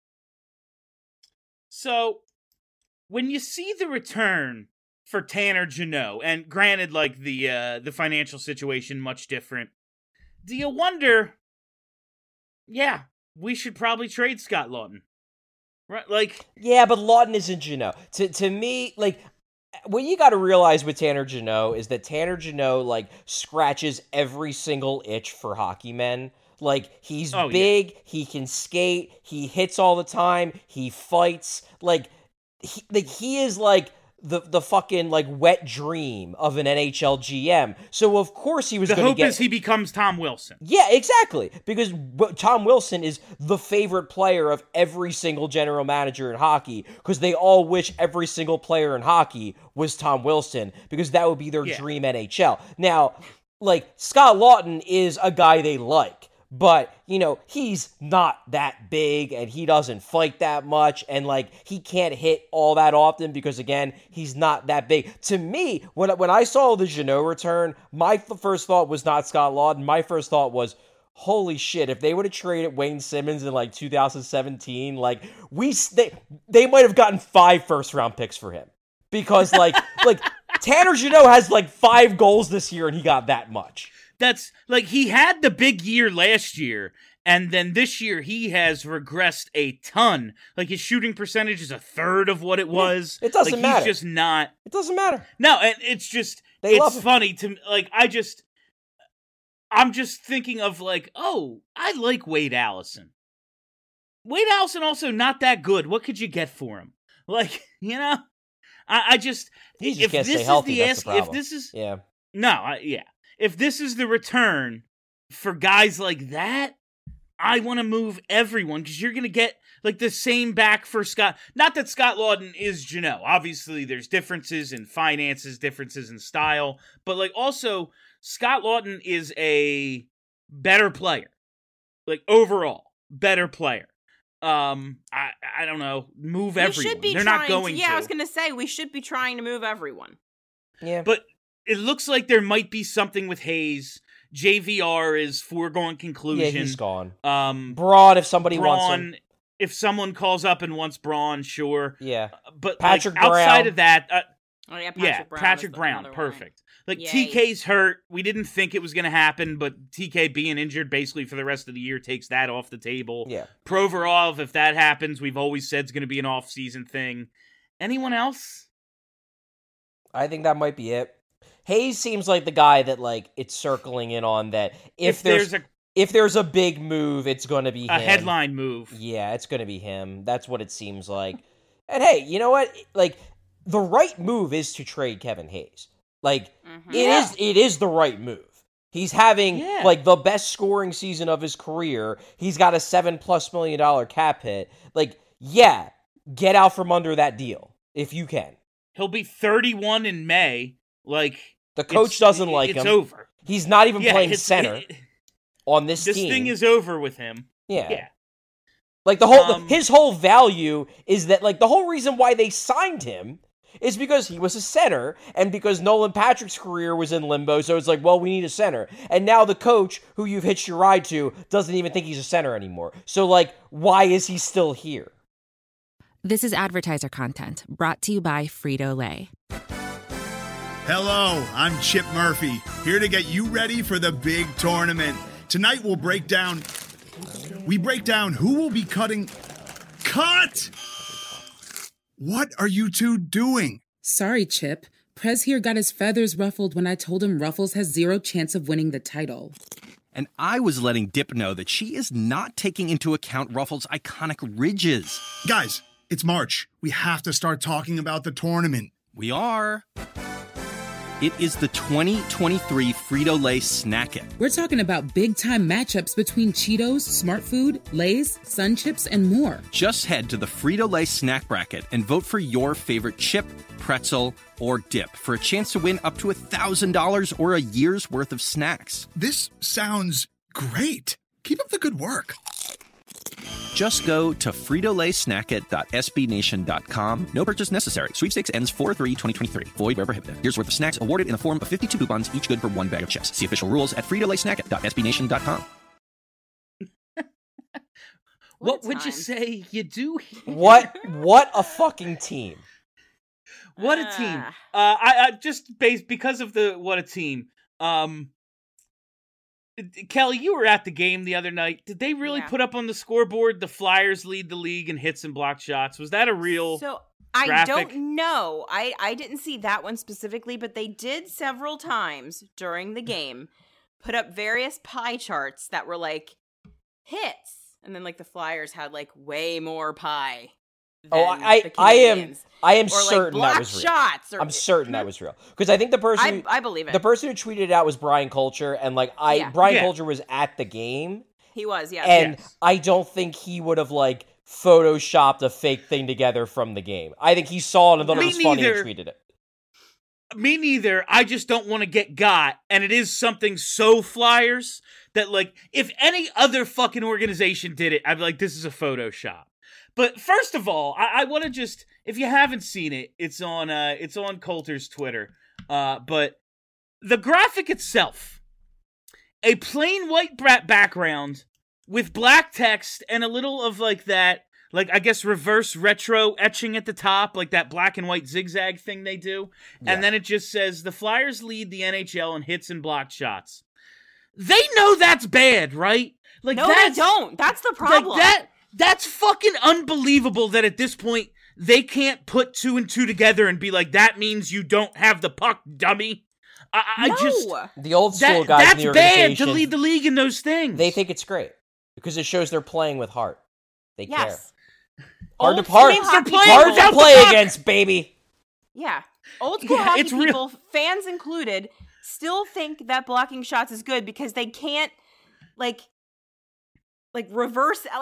So, when you see the return for Tanner Jeannot, and granted, the financial situation much different, do you wonder, yeah, we should probably trade Scott Laughton. Right, yeah, but Laughton isn't Jeannot. To me, what you got to realize with Tanner Jeannot is that Tanner Jeannot, scratches every single itch for hockey men. He's big, he can skate, he hits all the time, he fights. He is the fucking wet dream of an NHL GM. So of course he was going to get... The hope is he becomes Tom Wilson. Yeah, exactly. Because Tom Wilson is the favorite player of every single general manager in hockey because they all wish every single player in hockey was Tom Wilson because that would be their dream NHL. Now, Scott Laughton is a guy they like. But, he's not that big and he doesn't fight that much and, he can't hit all that often because, again, he's not that big. To me, when I saw the Jeannot return, my first thought was not Scott Laughton. My first thought was, holy shit, if they would have traded Wayne Simmons in, 2017, they might have gotten 5 first-round picks for him. Because, Tanner Jeannot has, 5 goals this year and he got that much. That's he had the big year last year, and then this year he has regressed a ton. His shooting percentage is a third of what it was. It doesn't matter. He's just not. It doesn't matter. No, and it's just it's funny to I'm just thinking of oh, I like Wade Allison. Wade Allison also not that good. What could you get for him? I just if this is healthy, if this is if this is the return for guys like that, I want to move everyone because you're going to get the same back for Scott. Not that Scott Laughton is Jeannot. Obviously, there's differences in finances, differences in style, but also Scott Laughton is a better player. Overall, better player. I don't know. Move everyone. They're not going to. Yeah, I was going to say we should be trying to move everyone. Yeah, but it looks like there might be something with Hayes. JVR is foregone conclusion. Yeah, he's gone. Braun, if somebody wants him. If someone calls up and wants Braun, sure. Yeah. But Patrick outside Brown. of that... Patrick Brown, perfect. TK's hurt. We didn't think it was going to happen, but TK being injured basically for the rest of the year takes that off the table. Yeah. Provorov, if that happens, we've always said it's going to be an off-season thing. Anyone else? I think that might be it. Hayes seems like the guy that it's circling in on that if there's a big move, it's going to be a him. Headline move. Yeah, it's going to be him. That's what it seems like. And hey, you know what? The right move is to trade Kevin Hayes. It is the right move. He's having the best scoring season of his career. He's got a $7+ million cap hit. Get out from under that deal if you can. He'll be 31 in May. The coach doesn't like him. It's over. He's not even playing it's- center on this team. This thing is over with him. Yeah. Like his whole value is that like the whole reason why they signed him is because he was a center and because Nolan Patrick's career was in limbo. So it's like, well, we need a center. And now the coach who you've hitched your ride to doesn't even think he's a center anymore. So like, why is he still here? This is advertiser content brought to you by Frito-Lay. Hello, I'm Chip Murphy, here to get you ready for the big tournament. Tonight we'll break down who will be cutting... Cut! What are you two doing? Sorry, Chip. Prez here got his feathers ruffled when I told him Ruffles has zero chance of winning the title. And I was letting Dip know that she is not taking into account Ruffles' iconic ridges. Guys, it's March. We have to start talking about the tournament. We are. It is the 2023 Frito-Lay Snack It. We're talking about big-time matchups between Cheetos, Smart Food, Lay's, Sun Chips, and more. Just head to the Frito-Lay Snack Bracket and vote for your favorite chip, pretzel, or dip for a chance to win up to $1,000 or a year's worth of snacks. This sounds great. Keep up the good work. Just go to fritolaysnackit.sbnation.com. No purchase necessary. Sweepstakes ends 4/3/2023. Void where prohibited. Year's worth of snacks awarded in the form of 52 coupons, each good for one bag of chips. See official rules at fritolaysnackit.sbnation.com. What would you say you do here? What a fucking team. What a team. I just because of the what a team. Kelly, you were at the game the other night. Did they really put up on the scoreboard the Flyers lead the league in hits and blocked shots? Was that a real I graphic? don't know. I didn't see that one specifically, but they did several times during the game put up various pie charts that were like hits. And then like the Flyers had like way more pie. I am or certain like that was real. shots I'm certain that was real because I think the person I believe it. The person who tweeted it out was Brian Culture, and like Brian Culture was at the game. He was, yeah. And I don't think he would have like photoshopped a fake thing together from the game. I think he saw it and thought it was funny and tweeted it. Me neither. I just don't want to get got, and it is something so Flyers that like if any other fucking organization did it, I'd be like, this is a Photoshop. But first of all, I want to just, if you haven't seen it, it's on Coulter's Twitter. But the graphic itself, a plain white background with black text and a little of like that, like I guess reverse retro etching at the top, like that black and white zigzag thing they do. Yeah. And then it just says, the Flyers lead the NHL in hits and blocked shots. They know that's bad, right? Like no, they don't. That's the problem. Like that's fucking unbelievable that at this point they can't put two and two together and be like, that means you don't have the puck, dummy. The old school guys in the organization, that's bad to lead the league in those things. They think it's great because it shows they're playing with heart. They care. Hard to play against, baby. Yeah. Old school hockey people, fans included, still think that blocking shots is good because they can't like reverse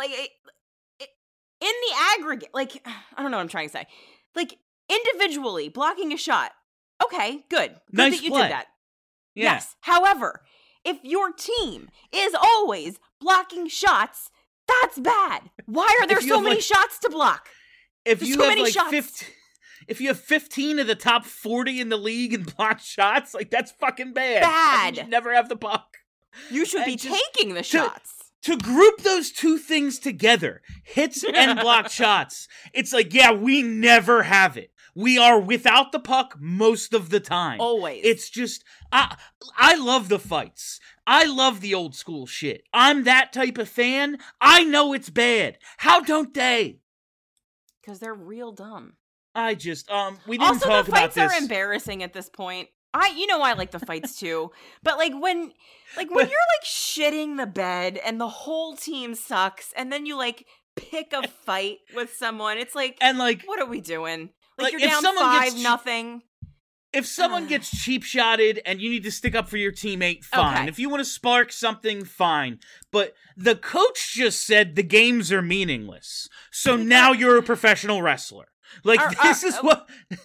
in the aggregate, like, I don't know what I'm trying to say. Like, individually, blocking a shot. Okay, good. Good that you did that. Yeah. Yes. However, if your team is always blocking shots, that's bad. Why are there so many shots to block? If you have if you have 15 of the top 40 in the league in blocked shots, like, that's fucking bad. Bad. You never have the puck. You should be taking the shots. To group those two things together, hits and blocked shots, it's like, yeah, we never have it. We are without the puck most of the time. Always. It's just, I love the fights. I love the old school shit. I'm that type of fan. I know it's bad. How don't they? Because they're real dumb. I just, we didn't talk about this. Also, the fights are embarrassing at this point. I like the fights too, but when you're like shitting the bed and the whole team sucks, and then you like pick a fight with someone, it's like, and like, what are we doing? Like you're down 5-0. If someone gets cheap shotted and you need to stick up for your teammate, fine. Okay. If you want to spark something, fine. But the coach just said the games are meaningless, so now you're a professional wrestler. Like this is what.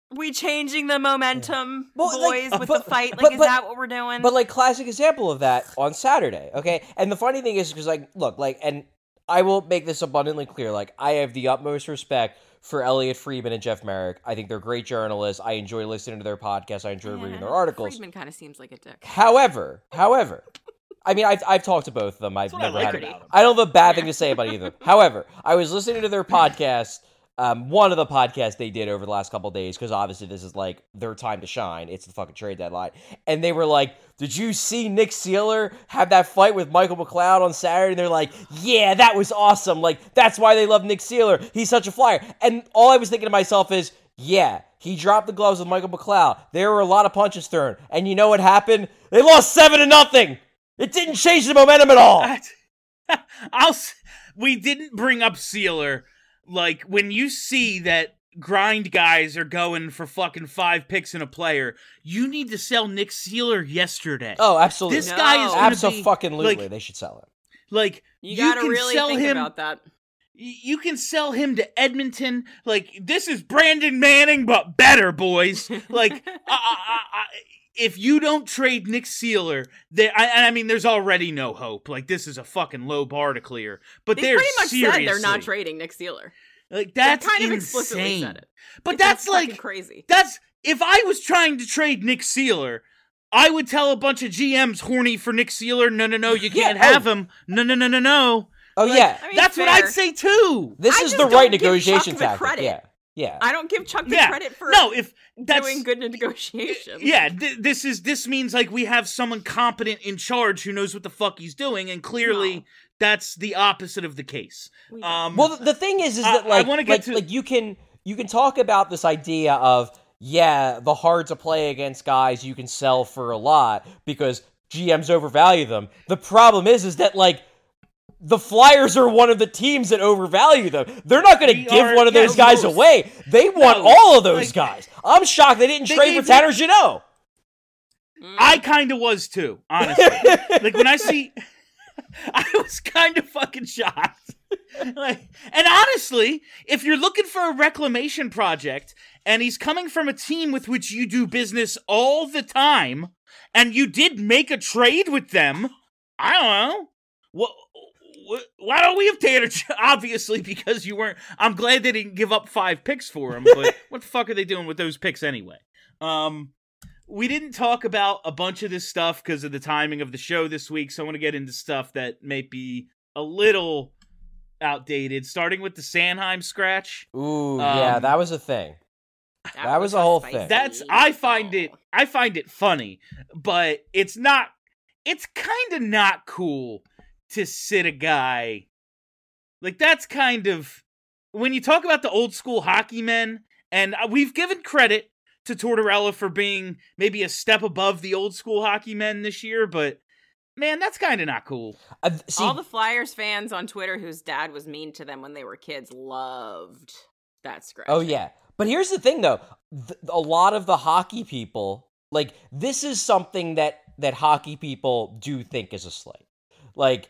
We changing the momentum, Well, like, boys, with the fight? Like, but- is but- that what we're doing? But like classic example of that on Saturday, okay? And the funny thing is because like look, like, and I will make this abundantly clear, like I have the utmost respect for Elliot Friedman and Jeff Merrick. I think they're great journalists. I enjoy listening to their podcasts. I enjoy reading their articles. Friedman kind of seems like a dick. However, I mean, I've talked to both of them. I've what I never like had. about them. I don't have a bad thing to say about either. However, I was listening to their podcast. One of the podcasts they did over the last couple of days, because obviously this is like their time to shine. It's the fucking trade deadline, and they were like, "Did you see Nick Seeler have that fight with Michael McLeod on Saturday?" And they're like, "Yeah, that was awesome. Like that's why they love Nick Seeler. He's such a flyer." And all I was thinking to myself is, "Yeah, he dropped the gloves with Michael McLeod. There were a lot of punches thrown, and you know what happened? They lost 7-0. It didn't change the momentum at all." We didn't bring up Sealer. Like, when you see that grind guys are going for fucking 5 picks in a player, you need to sell Nick Sealer yesterday. Oh, absolutely. This guy is going to be... Absolutely, like, they should sell him. Like, You gotta can really sell think him, about that. You can sell him to Edmonton. Like, this is Brandon Manning, but better, boys. Like, if you don't trade Nick Seeler, I mean, there's already no hope. Like, this is a fucking low bar to clear. But They they're pretty much seriously, said they're not trading Nick Seeler. like, that's They kind of insane. explicitly said it. But It's that's fucking like crazy. That's if I was trying to trade Nick Seeler, I would tell a bunch of GMs horny for Nick Seeler, no, you can't have him. No. Oh, Like, yeah. I mean, that's what fair. I'd say too. This I is just the don't right give negotiation Chuck the tactic. credit. Yeah. I don't give Chuck the Yeah. credit for No, if that's doing good negotiations. yeah, this means like we have someone competent in charge who knows what the fuck he's doing, and clearly that's the opposite of the case. Well, the thing is that I like, wanna get to- like you can talk about this idea of the hard to play against guys you can sell for a lot because GMs overvalue them. The problem is that like the Flyers are one of the teams that overvalue them. They're not going to give one of those guys away. They want all of those guys. I'm shocked they didn't trade for Tanner Jeannot. I kind of was too, honestly. Like when I see, I was kind of fucking shocked. Like, and honestly, if you're looking for a reclamation project and he's coming from a team with which you do business all the time, and you did make a trade with them, I don't know. Why don't we have Tanner? Obviously, because you weren't. I'm glad they didn't give up 5 picks for him. But what the fuck are they doing with those picks anyway? We didn't talk about a bunch of this stuff because of the timing of the show this week. So I want to get into stuff that may be a little outdated. Starting with the Sanheim scratch. Ooh, yeah, that was a thing. That was a whole thing. I find it funny, but it's not. It's kind of not cool to sit a guy like that's kind of when you talk about the old school hockey men, and we've given credit to Tortorella for being maybe a step above the old school hockey men this year, but man, that's kind of not cool. All the Flyers fans on Twitter whose dad was mean to them when they were kids loved that scratch. Oh yeah, but here's the thing though: a lot of the hockey people, like this is something that hockey people do think is a slight. Like,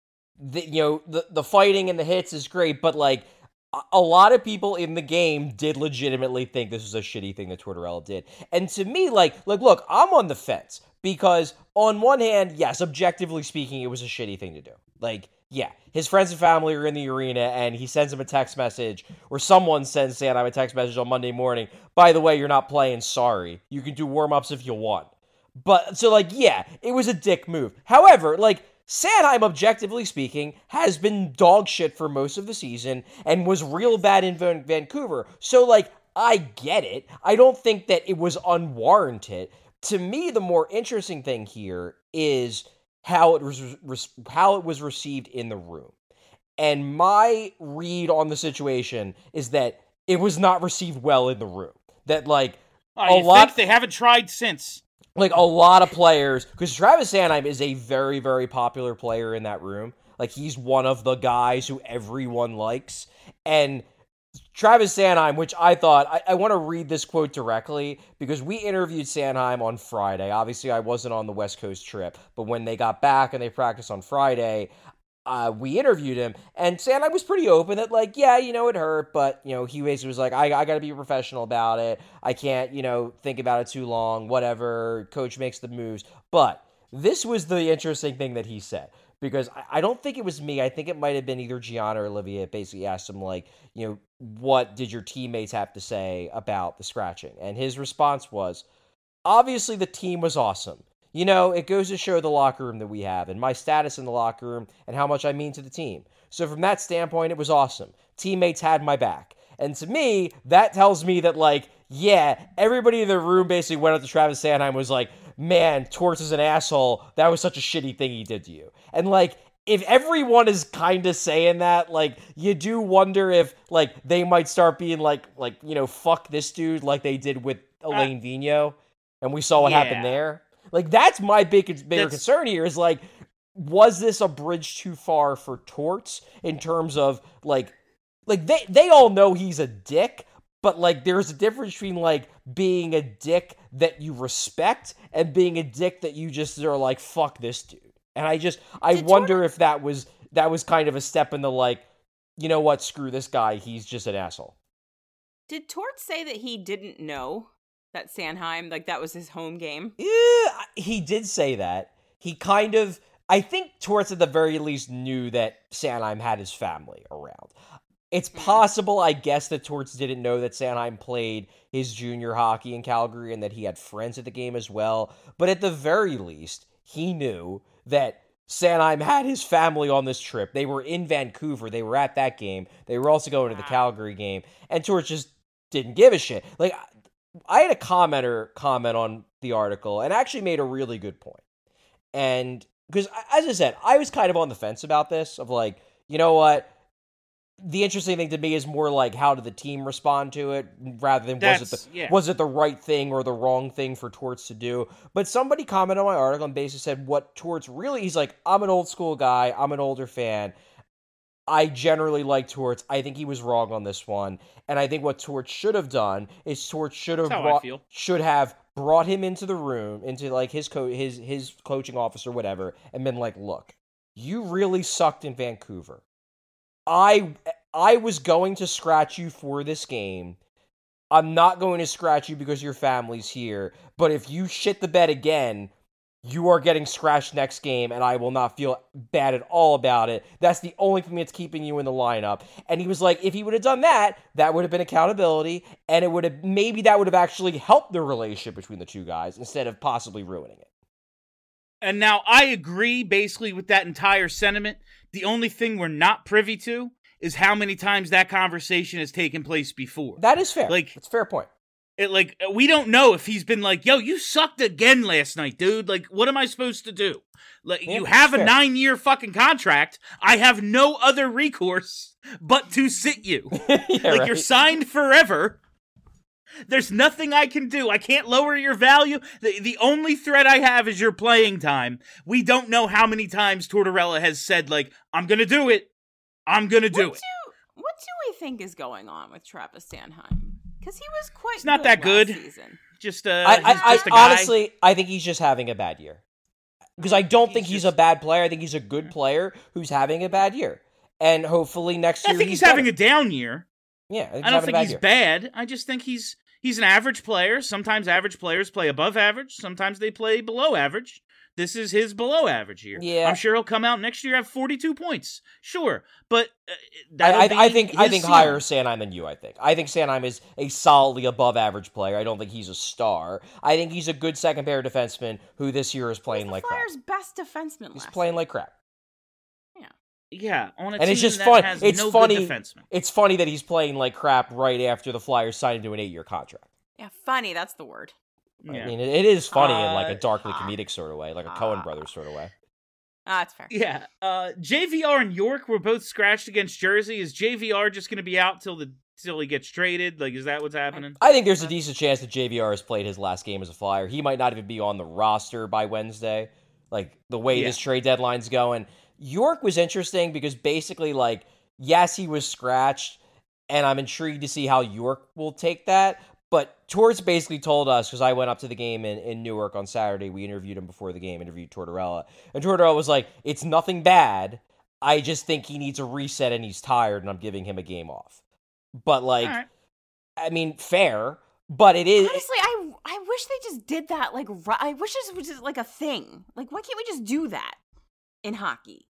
the fighting and the hits is great, but like a lot of people in the game did legitimately think this was a shitty thing that Tortorella did. And to me, like look, I'm on the fence because on one hand, yes, objectively speaking, it was a shitty thing to do. Like, yeah, his friends and family are in the arena and he sends him a text message, or someone sends Sanheim a text message on Monday morning. By the way, you're not playing, sorry. You can do warm-ups if you want. But, so like, yeah, it was a dick move. However, like, Sanheim, objectively speaking, has been dog shit for most of the season and was real bad in Vancouver. So, like, I get it. I don't think that it was unwarranted. To me, the more interesting thing here is how it was received in the room. And my read on the situation is that it was not received well in the room. That, like, think they haven't tried since. Like, a lot of players, because Travis Sanheim is a very, very popular player in that room. Like, he's one of the guys who everyone likes. And Travis Sanheim, which I thought, I want to read this quote directly, because we interviewed Sanheim on Friday. Obviously, I wasn't on the West Coast trip, but when they got back and they practiced on Friday, we interviewed him, and Sanheim was pretty open that, like, yeah, it hurt, but, he basically was like, I got to be a professional about it. I can't, think about it too long, whatever. Coach makes the moves. But this was the interesting thing that he said, because I don't think it was me. I think it might have been either Gianna or Olivia. It basically asked him, like, what did your teammates have to say about the scratching? And his response was, obviously the team was awesome. It goes to show the locker room that we have and my status in the locker room and how much I mean to the team. So from that standpoint, it was awesome. Teammates had my back. And to me, that tells me that, like, yeah, everybody in the room basically went up to Travis Sanheim and was like, man, Torts is an asshole. That was such a shitty thing he did to you. And, like, if everyone is kind of saying that, like, you do wonder if, like, they might start being like, fuck this dude like they did with Elaine Vigneault. And we saw what happened there. Like, that's my bigger concern here is, like, was this a bridge too far for Torts in terms of, like they all know he's a dick, but, like, there's a difference between, like, being a dick that you respect and being a dick that you just are like, fuck this dude. And I wonder if that was kind of a step in the, like, you know what, screw this guy, he's just an asshole. Did Torts say that he didn't know that Sanheim, like, that was his home game? Yeah, he did say that. He kind of, I think Torts at the very least knew that Sanheim had his family around. It's possible, I guess, that Torts didn't know that Sanheim played his junior hockey in Calgary and that he had friends at the game as well. But at the very least, he knew that Sanheim had his family on this trip. They were in Vancouver. They were at that game. They were also going to the Calgary game. And Torts just didn't give a shit. Like, I had a commenter comment on the article and actually made a really good point. And because, as I said, I was kind of on the fence about this, of like, you know what? The interesting thing to me is more like, how did the team respond to it, rather than was it the right thing or the wrong thing for Torts to do. But somebody commented on my article and basically said what Torts really, he's like, I'm an old school guy, I'm an older fan. I generally like Torts. I think he was wrong on this one. And I think what Torts should have done is Torts should have brought him into the room, into, like, his coaching office or whatever, and been like, look, you really sucked in Vancouver. I was going to scratch you for this game. I'm not going to scratch you because your family's here. But if you shit the bed again, you are getting scratched next game, and I will not feel bad at all about it. That's the only thing that's keeping you in the lineup. And he was like, if he would have done that, that would have been accountability, and that would have actually helped the relationship between the two guys instead of possibly ruining it. And now I agree basically with that entire sentiment. The only thing we're not privy to is how many times that conversation has taken place before. That is fair. Like, it's a fair point. We don't know if he's been like, yo, you sucked again last night, dude. Like, what am I supposed to do? Like, you have a 9-year fucking contract. I have no other recourse but to sit you. You're signed forever. There's nothing I can do. I can't lower your value. The only threat I have is your playing time. We don't know how many times Tortorella has said, like, I'm going to do it. I'm going to do it. What do we think is going on with Travis Sanheim? Because he was quite It's not that good. Season. Just I honestly, I think he's just having a bad year. Because I don't think he's a bad player. I think he's a good player who's having a bad year. And hopefully next year I think he's having a down year. Yeah, I don't think he's bad. I just think he's an average player. Sometimes average players play above average. Sometimes they play below average. This is his below average year. Yeah. I'm sure he'll come out next year have 42 points. Sure, but I think higher Sanheim than you. I think Sanheim is a solidly above average player. I don't think he's a star. I think he's a good second pair defenseman who this year is playing like crap. Flyers' best defenseman. He's playing like crap. Yeah, on a and team it's just that fun. has It's no funny. good defenseman. It's funny that he's playing like crap right after the Flyers signed him to an 8-year contract. Yeah, funny. That's the word. Yeah. I mean, it is funny in like a darkly comedic sort of way, like a Coen Brothers sort of way. That's fair. Yeah. JVR and York were both scratched against Jersey. Is JVR just going to be out till he gets traded? Like, is that what's happening? I think there's a decent chance that JVR has played his last game as a Flyer. He might not even be on the roster by Wednesday. Like, the way this trade deadline's going. York was interesting because basically, like, yes, he was scratched, and I'm intrigued to see how York will take that. But Torts basically told us, because I went up to the game in Newark on Saturday, we interviewed him before the game, interviewed Tortorella, and Tortorella was like, it's nothing bad. I just think he needs a reset and he's tired, and I'm giving him a game off. But, like, All right. I mean, fair, but it is... Honestly, I wish they just did that. Like, I wish this was just like a thing. Like, why can't we just do that in hockey?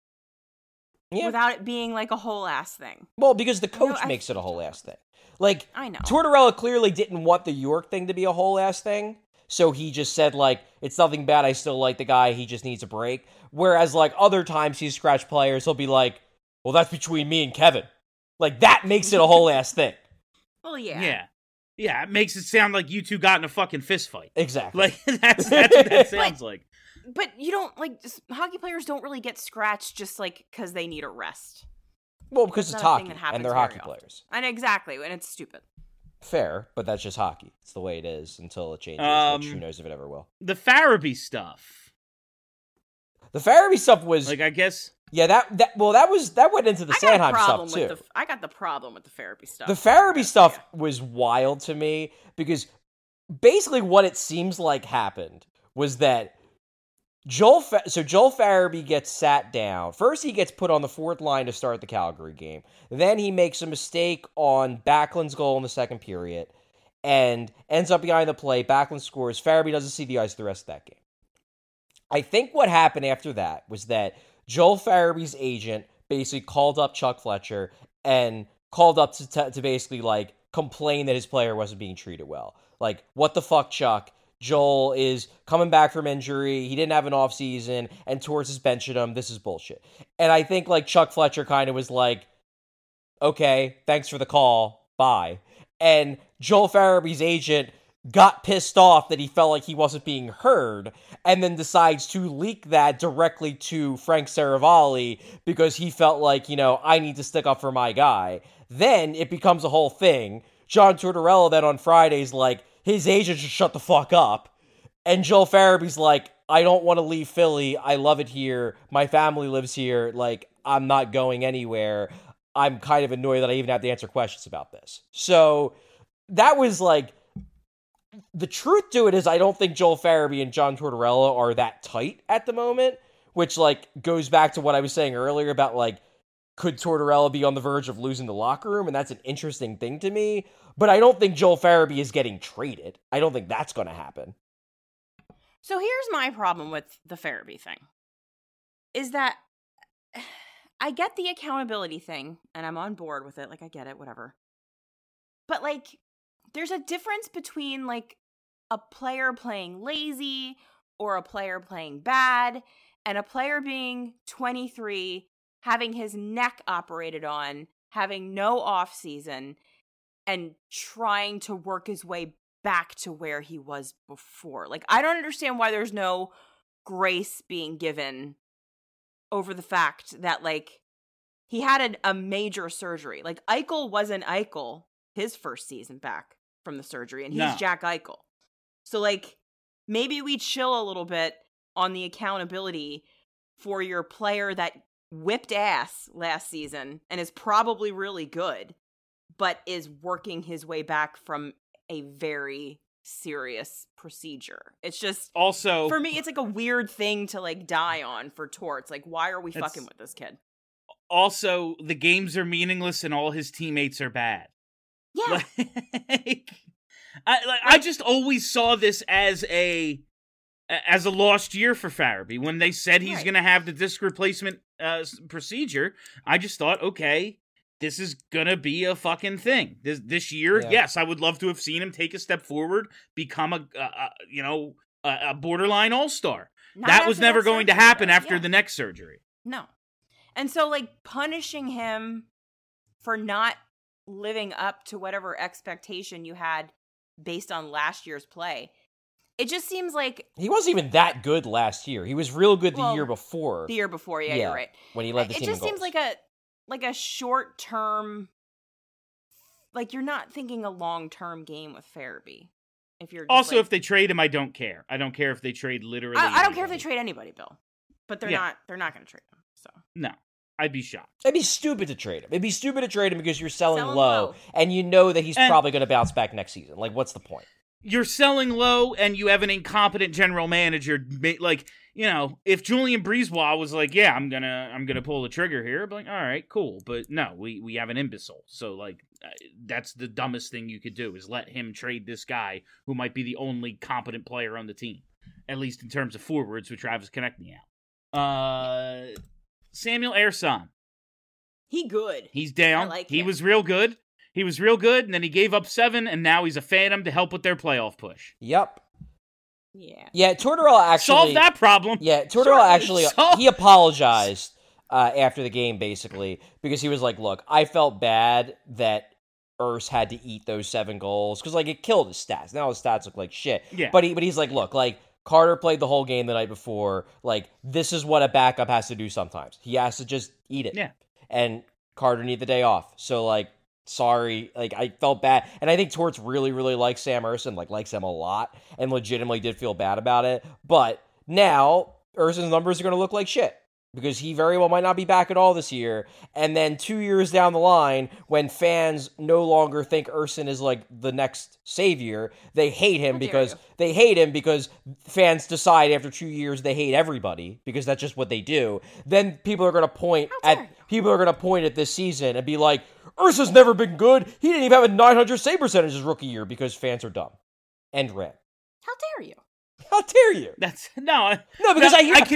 Yeah. Without it being like a whole ass thing. Well, because the coach makes it a whole ass thing. Like, I know. Tortorella clearly didn't want the York thing to be a whole ass thing, so he just said, like, it's nothing bad, I still like the guy, he just needs a break. Whereas, like, other times he's scratched players, he'll be like, well, that's between me and Kevin. Like, that makes it a whole ass thing. Well, yeah. Yeah. Yeah, it makes it sound like you two got in a fucking fist fight. Exactly. Like, that's what that sounds like. But you don't, like, hockey players don't really get scratched just, like, because they need a rest. Well, because It's it's not a thing hockey, that happens and they're very hockey often. players. And exactly, and it's stupid. Fair, but that's just hockey. It's the way it is until it changes, which who knows if it ever will. The Farabee stuff. The Farabee stuff was... Like, I guess... Yeah, that went into the Sanheim stuff, too. I got the problem with the Farabee stuff. The Farabee stuff was wild to me, because basically what it seems like happened was that Joel Farabee gets sat down. First, he gets put on the fourth line to start the Calgary game. Then he makes a mistake on Backlund's goal in the second period and ends up behind the play. Backlund scores. Farabee doesn't see the ice the rest of that game. I think what happened after that was that Joel Farabee's agent basically called up Chuck Fletcher and called up to basically, like, complain that his player wasn't being treated well. Like, what the fuck, Chuck? Joel is coming back from injury. He didn't have an offseason, and Torts is benching him. This is bullshit. And I think, like, Chuck Fletcher kind of was like, okay, thanks for the call. Bye. And Joel Farabee's agent got pissed off that he felt like he wasn't being heard, and then decides to leak that directly to Frank Saravalli because he felt like, you know, I need to stick up for my guy. Then it becomes a whole thing. John Tortorella then on Friday's like, his agent should shut the fuck up. And Joel Farabee's like, I don't want to leave Philly. I love it here. My family lives here. Like, I'm not going anywhere. I'm kind of annoyed that I even have to answer questions about this. So that was like, the truth to it is I don't think Joel Farabee and John Tortorella are that tight at the moment, which, like, goes back to what I was saying earlier about, like, could Tortorella be on the verge of losing the locker room? And that's an interesting thing to me. But I don't think Joel Farabee is getting traded. I don't think that's going to happen. So here's my problem with the Farabee thing. Is that I get the accountability thing, and I'm on board with it. Like, I get it, whatever. But, like, there's a difference between, like, a player playing lazy or a player playing bad and a player being 23, having his neck operated on, having no off season, and trying to work his way back to where he was before. Like, I don't understand why there's no grace being given over the fact that, like, he had a major surgery. Like, Eichel wasn't Eichel his first season back from the surgery, and he's Jack Eichel. So, like, maybe we chill a little bit on the accountability for your player that whipped ass last season and is probably really good, but is working his way back from a very serious procedure. It's just, also, for me, it's like a weird thing to, like, die on for Torts. Like, why are we fucking with this kid? Also, the games are meaningless and all his teammates are bad. Yeah. I just always saw this as a lost year for Farabee. When they said he's going to have the disc replacement procedure, I just thought, okay, this is going to be a fucking thing. This year, yes, I would love to have seen him take a step forward, become a borderline all-star. That was never going to happen after the neck surgery. No. And so, like, punishing him for not living up to whatever expectation you had based on last year's play, it just seems like he wasn't even that good last year. He was real good the year before. The year before, yeah, you're right. When he led the team in goals. It just seems like a short term. Like, you're not thinking a long term game with Farabee. If you're also, if they trade him, I don't care. I don't care if they trade literally. I don't care if they trade anybody, Bill. But they're not. They're not going to trade him. So no. I'd be shocked. It'd be stupid to trade him. It'd be stupid to trade him because you're selling low, and you know that he's probably going to bounce back next season. Like, what's the point? You're selling low, and you have an incompetent general manager. Like, you know, if Julian Breezewell was like, yeah, I'm gonna pull the trigger here, I'd be like, all right, cool. But no, we have an imbecile. So like, that's the dumbest thing you could do is let him trade this guy who might be the only competent player on the team, at least in terms of forwards with Travis Konechny out. Samuel Ersson. He good. He's down. I like he him. was real good. He was real good, and then he gave up 7, and now he's a phantom to help with their playoff push. Yep. Yeah. Yeah, Tortorella actually... Solve that problem. Yeah, Tortorella actually... He apologized after the game, basically, because he was like, look, I felt bad that Urs had to eat those 7 goals, because, like, it killed his stats. Now his stats look like shit. Yeah. But he's like, look, like, Carter played the whole game the night before. Like, this is what a backup has to do sometimes. He has to just eat it. Yeah. And Carter needed the day off. So, like, sorry. Like, I felt bad. And I think Torts really, really likes Sam Ersson, like, likes him a lot, and legitimately did feel bad about it. But now, Ersson's numbers are going to look like shit, because he very well might not be back at all this year. And then 2 years down the line, when fans no longer think Ersson is like the next savior, they hate him because fans decide after 2 years they hate everybody, because that's just what they do. Then people are going to point at this season and be like, Ursa's never been good. He didn't even have a 900 save percentage his rookie year, because fans are dumb. End rant. How dare you? How dare you? That's because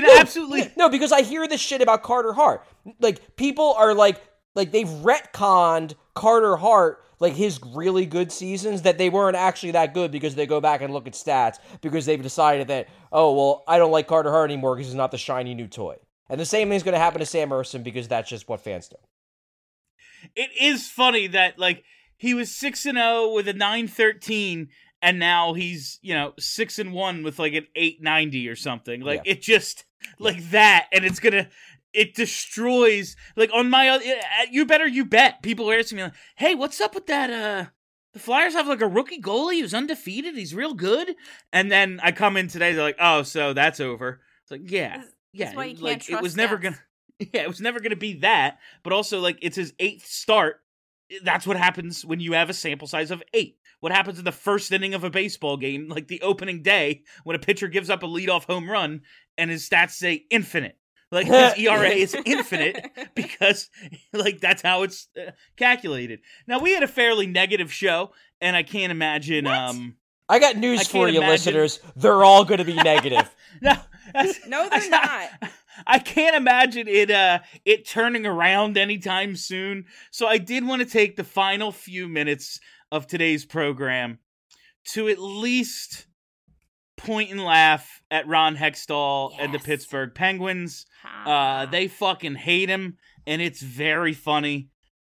I hear this shit about Carter Hart. Like, people are like they've retconned Carter Hart, like his really good seasons, that they weren't actually that good, because they go back and look at stats, because they've decided that, oh, well, I don't like Carter Hart anymore because he's not the shiny new toy. And the same thing's going to happen to Sam Ersson, because that's just what fans do. It is funny that, like, he was 6-0 with a 913, and now he's, 6-1 with like an 890 or something. Like, It just, like that, and it destroys, like, on my, you bet. People are asking me, like, hey, what's up with that, the Flyers have, like, a rookie goalie who's undefeated, he's real good, and then I come in today, they're like, oh, so that's over. It's like, That's why you can't like, trust it was never stats. it was never gonna be that, but also, like, it's his 8th start. That's what happens when you have a sample size of 8. What happens in the first inning of a baseball game, like the opening day, when a pitcher gives up a leadoff home run and his stats say infinite. Like, his ERA is infinite because, like, that's how it's calculated. Now, we had a fairly negative show, and I can't imagine... I got news for you, listeners. They're all going to be negative. No, they're not. I can't imagine it turning around anytime soon. So I did want to take the final few minutes of today's program to at least point and laugh at Ron Hextall and the Pittsburgh Penguins. They fucking hate him, and it's very funny.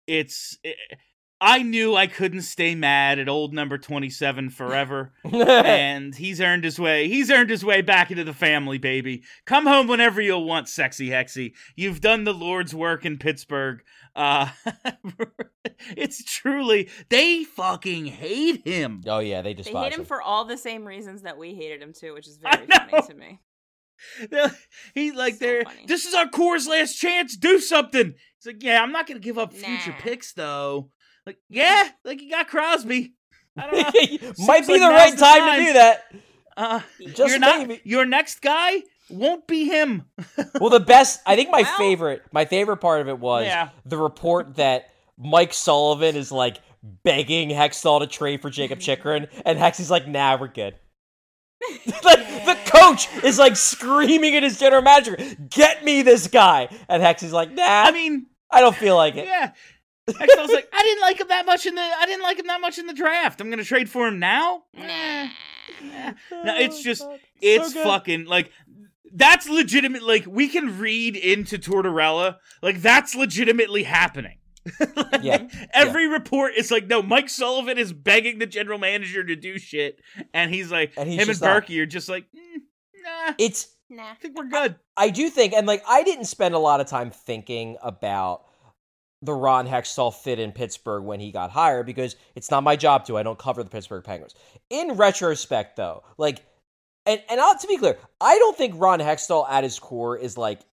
I knew I couldn't stay mad at old number 27 forever, and he's earned his way back into the family, baby. Come home whenever you'll want, sexy Hexy. You've done the Lord's work in Pittsburgh. It's truly, they fucking hate him. Oh yeah, they despise him. They hate him for all the same reasons that we hated him too, which is very funny to me. He's like, this is our core's last chance, do something. He's like, yeah, I'm not going to give up future picks, though. Like, yeah, like, you got Crosby. I don't know. Might be the right time to do that. Just maybe. Your next guy won't be him. Well, I think my favorite part of it was the report that Mike Sullivan is, like, begging Hextall to trade for Jacob Chychrun, and Hexy's like, nah, we're good. Like, the coach is, like, screaming at his general manager, get me this guy. And Hexy's like, nah, I don't feel like it. Yeah. Hextall's like, I didn't like him that much in the draft. I'm gonna trade for him now? Nah. No, it's just, it's so fucking, like, that's legitimate. Like, we can read into Tortorella. Like, that's legitimately happening. Every report is like, no, Mike Sullivan is begging the general manager to do shit, and he's like, him and Berkey are just like, nah. I think we're good. I do think, and, like, I didn't spend a lot of time thinking about the Ron Hextall fit in Pittsburgh when he got hired, because it's not my job to. I don't cover the Pittsburgh Penguins. In retrospect, though, like, and to be clear, I don't think Ron Hextall at his core is, like,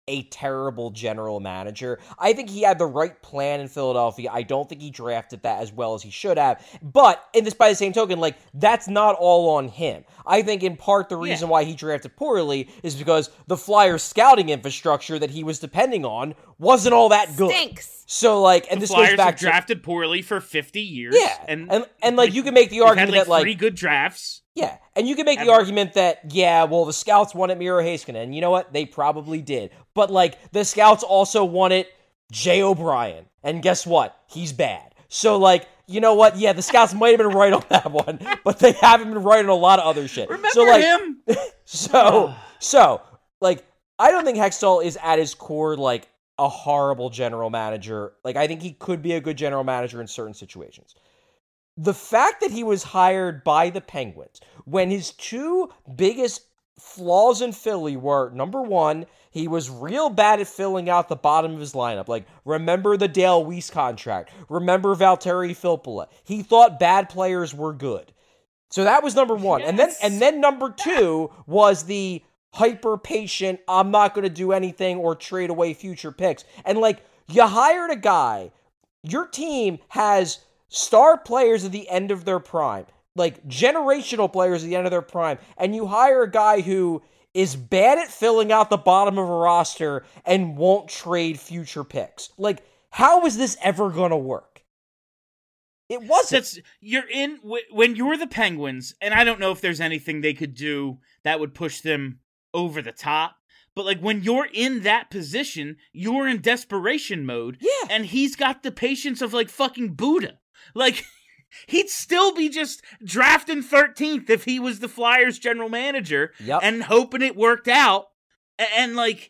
a terrible general manager. I think he had the right plan in Philadelphia. I don't think he drafted that as well as he should have. But, by the same token, like, that's not all on him. I think in part the reason why he drafted poorly is because the Flyers scouting infrastructure that he was depending on wasn't all that good. Stinks. So, like, and this Flyers goes back have drafted poorly for 50 years. Yeah, and like, you can make the argument had, that, like, 3 good drafts. Yeah, and you can make the argument that, the scouts wanted Miro Heiskanen, and you know what? They probably did. But, like, the scouts also wanted Jay O'Brien, and guess what? He's bad. So, like, you know what? Yeah, the scouts might have been right on that one, but they haven't been right on a lot of other shit. Remember him? So, like, I don't think Hextall is at his core, like, a horrible general manager. Like, I think he could be a good general manager in certain situations. The fact that he was hired by the Penguins when his 2 biggest flaws in Philly were, number 1, he was real bad at filling out the bottom of his lineup. Like, remember the Dale Weiss contract. Remember Valtteri Filppula. He thought bad players were good. So that was number 1. Yes. And then number 2 was the hyper-patient, I'm not going to do anything or trade away future picks. And, like, you hired a guy, your team has star players at the end of their prime, like generational players at the end of their prime, and you hire a guy who is bad at filling out the bottom of a roster and won't trade future picks. Like, how is this ever going to work? It wasn't. When you're the Penguins, and I don't know if there's anything they could do that would push them over the top, but, like, when you're in that position, you're in desperation mode. Yeah. And he's got the patience of, like, fucking Buddha. Like, he'd still be just drafting 13th if he was the Flyers general manager and hoping it worked out. And like,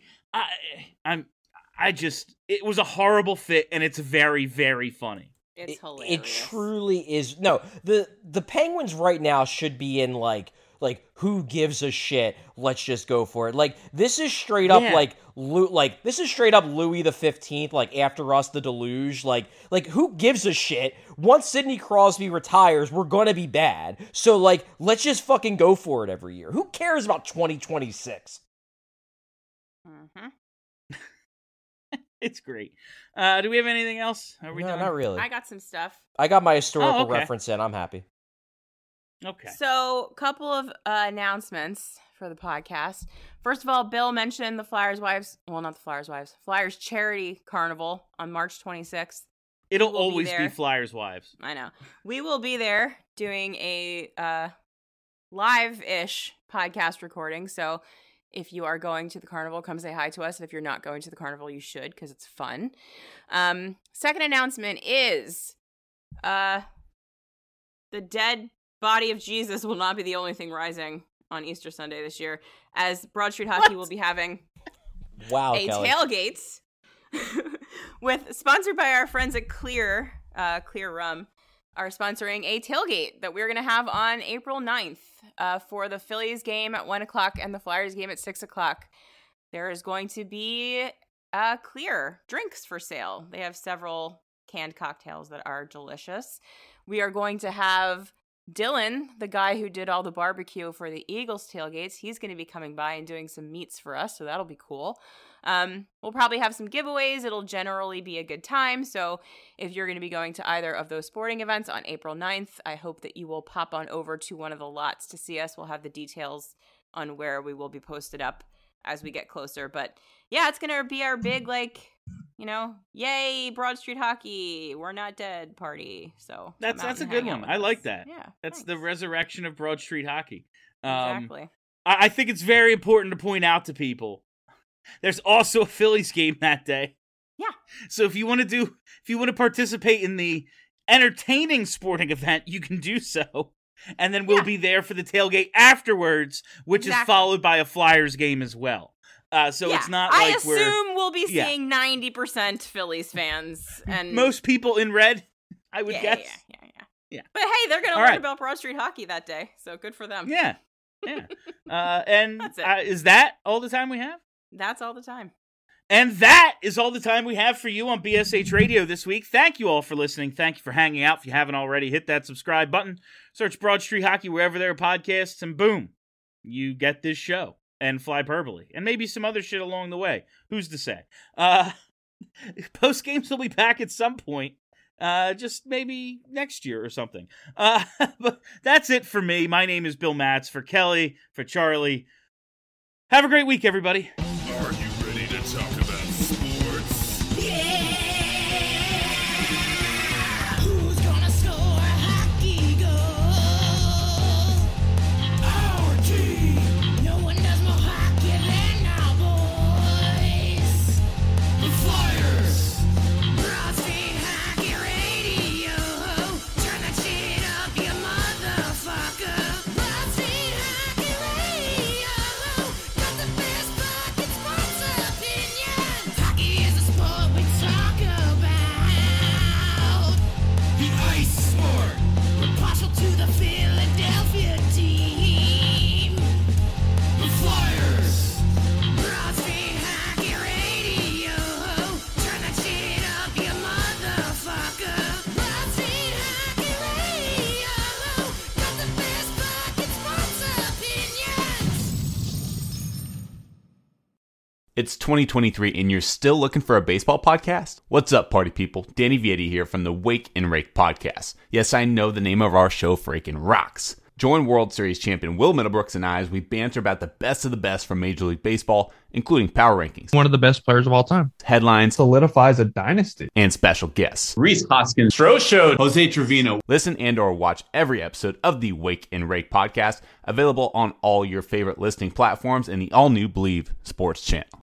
it was a horrible fit, and it's very, very funny. It's hilarious. It truly is. No, the Penguins right now should be in like who gives a shit? Let's just go for it. Like, this is straight up this is straight up Louis the 15th. Like, after us, the deluge. Like who gives a shit? Once Sidney Crosby retires, we're gonna be bad. So, like, let's just fucking go for it every year. Who cares about 2026? Mm-hmm. It's great. Do we have anything else? Are we No, done? not really. I got some stuff. I got my historical reference in. I'm happy. Okay. So, couple of announcements for the podcast. First of all, Bill mentioned the Flyers Charity Carnival on March 26th. It'll always be Flyers Wives. I know. We will be there doing a live-ish podcast recording. So, if you are going to the carnival, come say hi to us. And if you're not going to the carnival, you should, because it's fun. Second announcement is the dead body of Jesus will not be the only thing rising on Easter Sunday this year, as Broad Street Hockey will be having Kelly. Tailgate sponsored by our friends at Clear Rum, are sponsoring a tailgate that we're going to have on April 9th for the Phillies game at 1 o'clock and the Flyers game at 6 o'clock. There is going to be Clear drinks for sale. They have several canned cocktails that are delicious. We are going to have Dylan, the guy who did all the barbecue for the Eagles tailgates. He's going to be coming by and doing some meats for us, so that'll be cool. We'll probably have some giveaways. It'll generally be a good time. So if you're going to be going to either of those sporting events on April 9th, I hope that you will pop on over to one of the lots to see us. We'll have the details on where we will be posted up as we get closer. But yeah, it's going to be our big, yay, Broad Street Hockey, we're not dead party. So that's a good one. I like that. Yeah, that's the resurrection of Broad Street Hockey. Exactly. I think it's very important to point out to people there's also a Phillies game that day. Yeah. So if you want to participate in the entertaining sporting event, you can do so. And then we'll be there for the tailgate afterwards, which is followed by a Flyers game as well. So it's not like I assume we'll be seeing 90% Phillies fans, and most people in red, I would guess. Yeah. But hey, they're gonna learn about Broad Street Hockey that day, so good for them. Yeah. And is that all the time we have? That's all the time. And that is all the time we have for you on BSH Radio this week. Thank you all for listening. Thank you for hanging out. If you haven't already, hit that subscribe button. Search Broad Street Hockey wherever there are podcasts, and boom, you get this show. and Flyperbole, and maybe some other shit along the way. Who's to say? Post games will be back at some point. Just maybe next year or something. But that's it for me. My name is Bill Matz. For Kelly, for Charlie. Have a great week, everybody. Are you ready to talk about sports? Who's gonna score a hockey goal? Our team. No one does more hockey than our boys. The Flyers. Broad Street Hockey Radio. Turn that shit up, you motherfucker. Broad Street Hockey Radio. Got the best fucking sports opinions. Hockey is a sport we talk about. The ice sport. We're partial to the Philadelphia team. The Flyers. Broad Street Hockey Radio. Turn that shit up, you motherfucker. Broad Street Hockey Radio. Got the best fucking sports opinions. It's 2023 and you're still looking for a baseball podcast? What's up, party people? Danny Vietti here from the Wake and Rake podcast. Yes, I know the name of our show freaking rocks. Join World Series champion Will Middlebrooks and I as we banter about the best of the best from Major League Baseball, including power rankings, One of the best players of all time. headlines, Solidifies a dynasty. and special guests. Reese Hoskins, Stro Show, Jose Trevino. Listen and or watch every episode of the Wake and Rake podcast, available on all your favorite listening platforms and the all-new Believe Sports channel.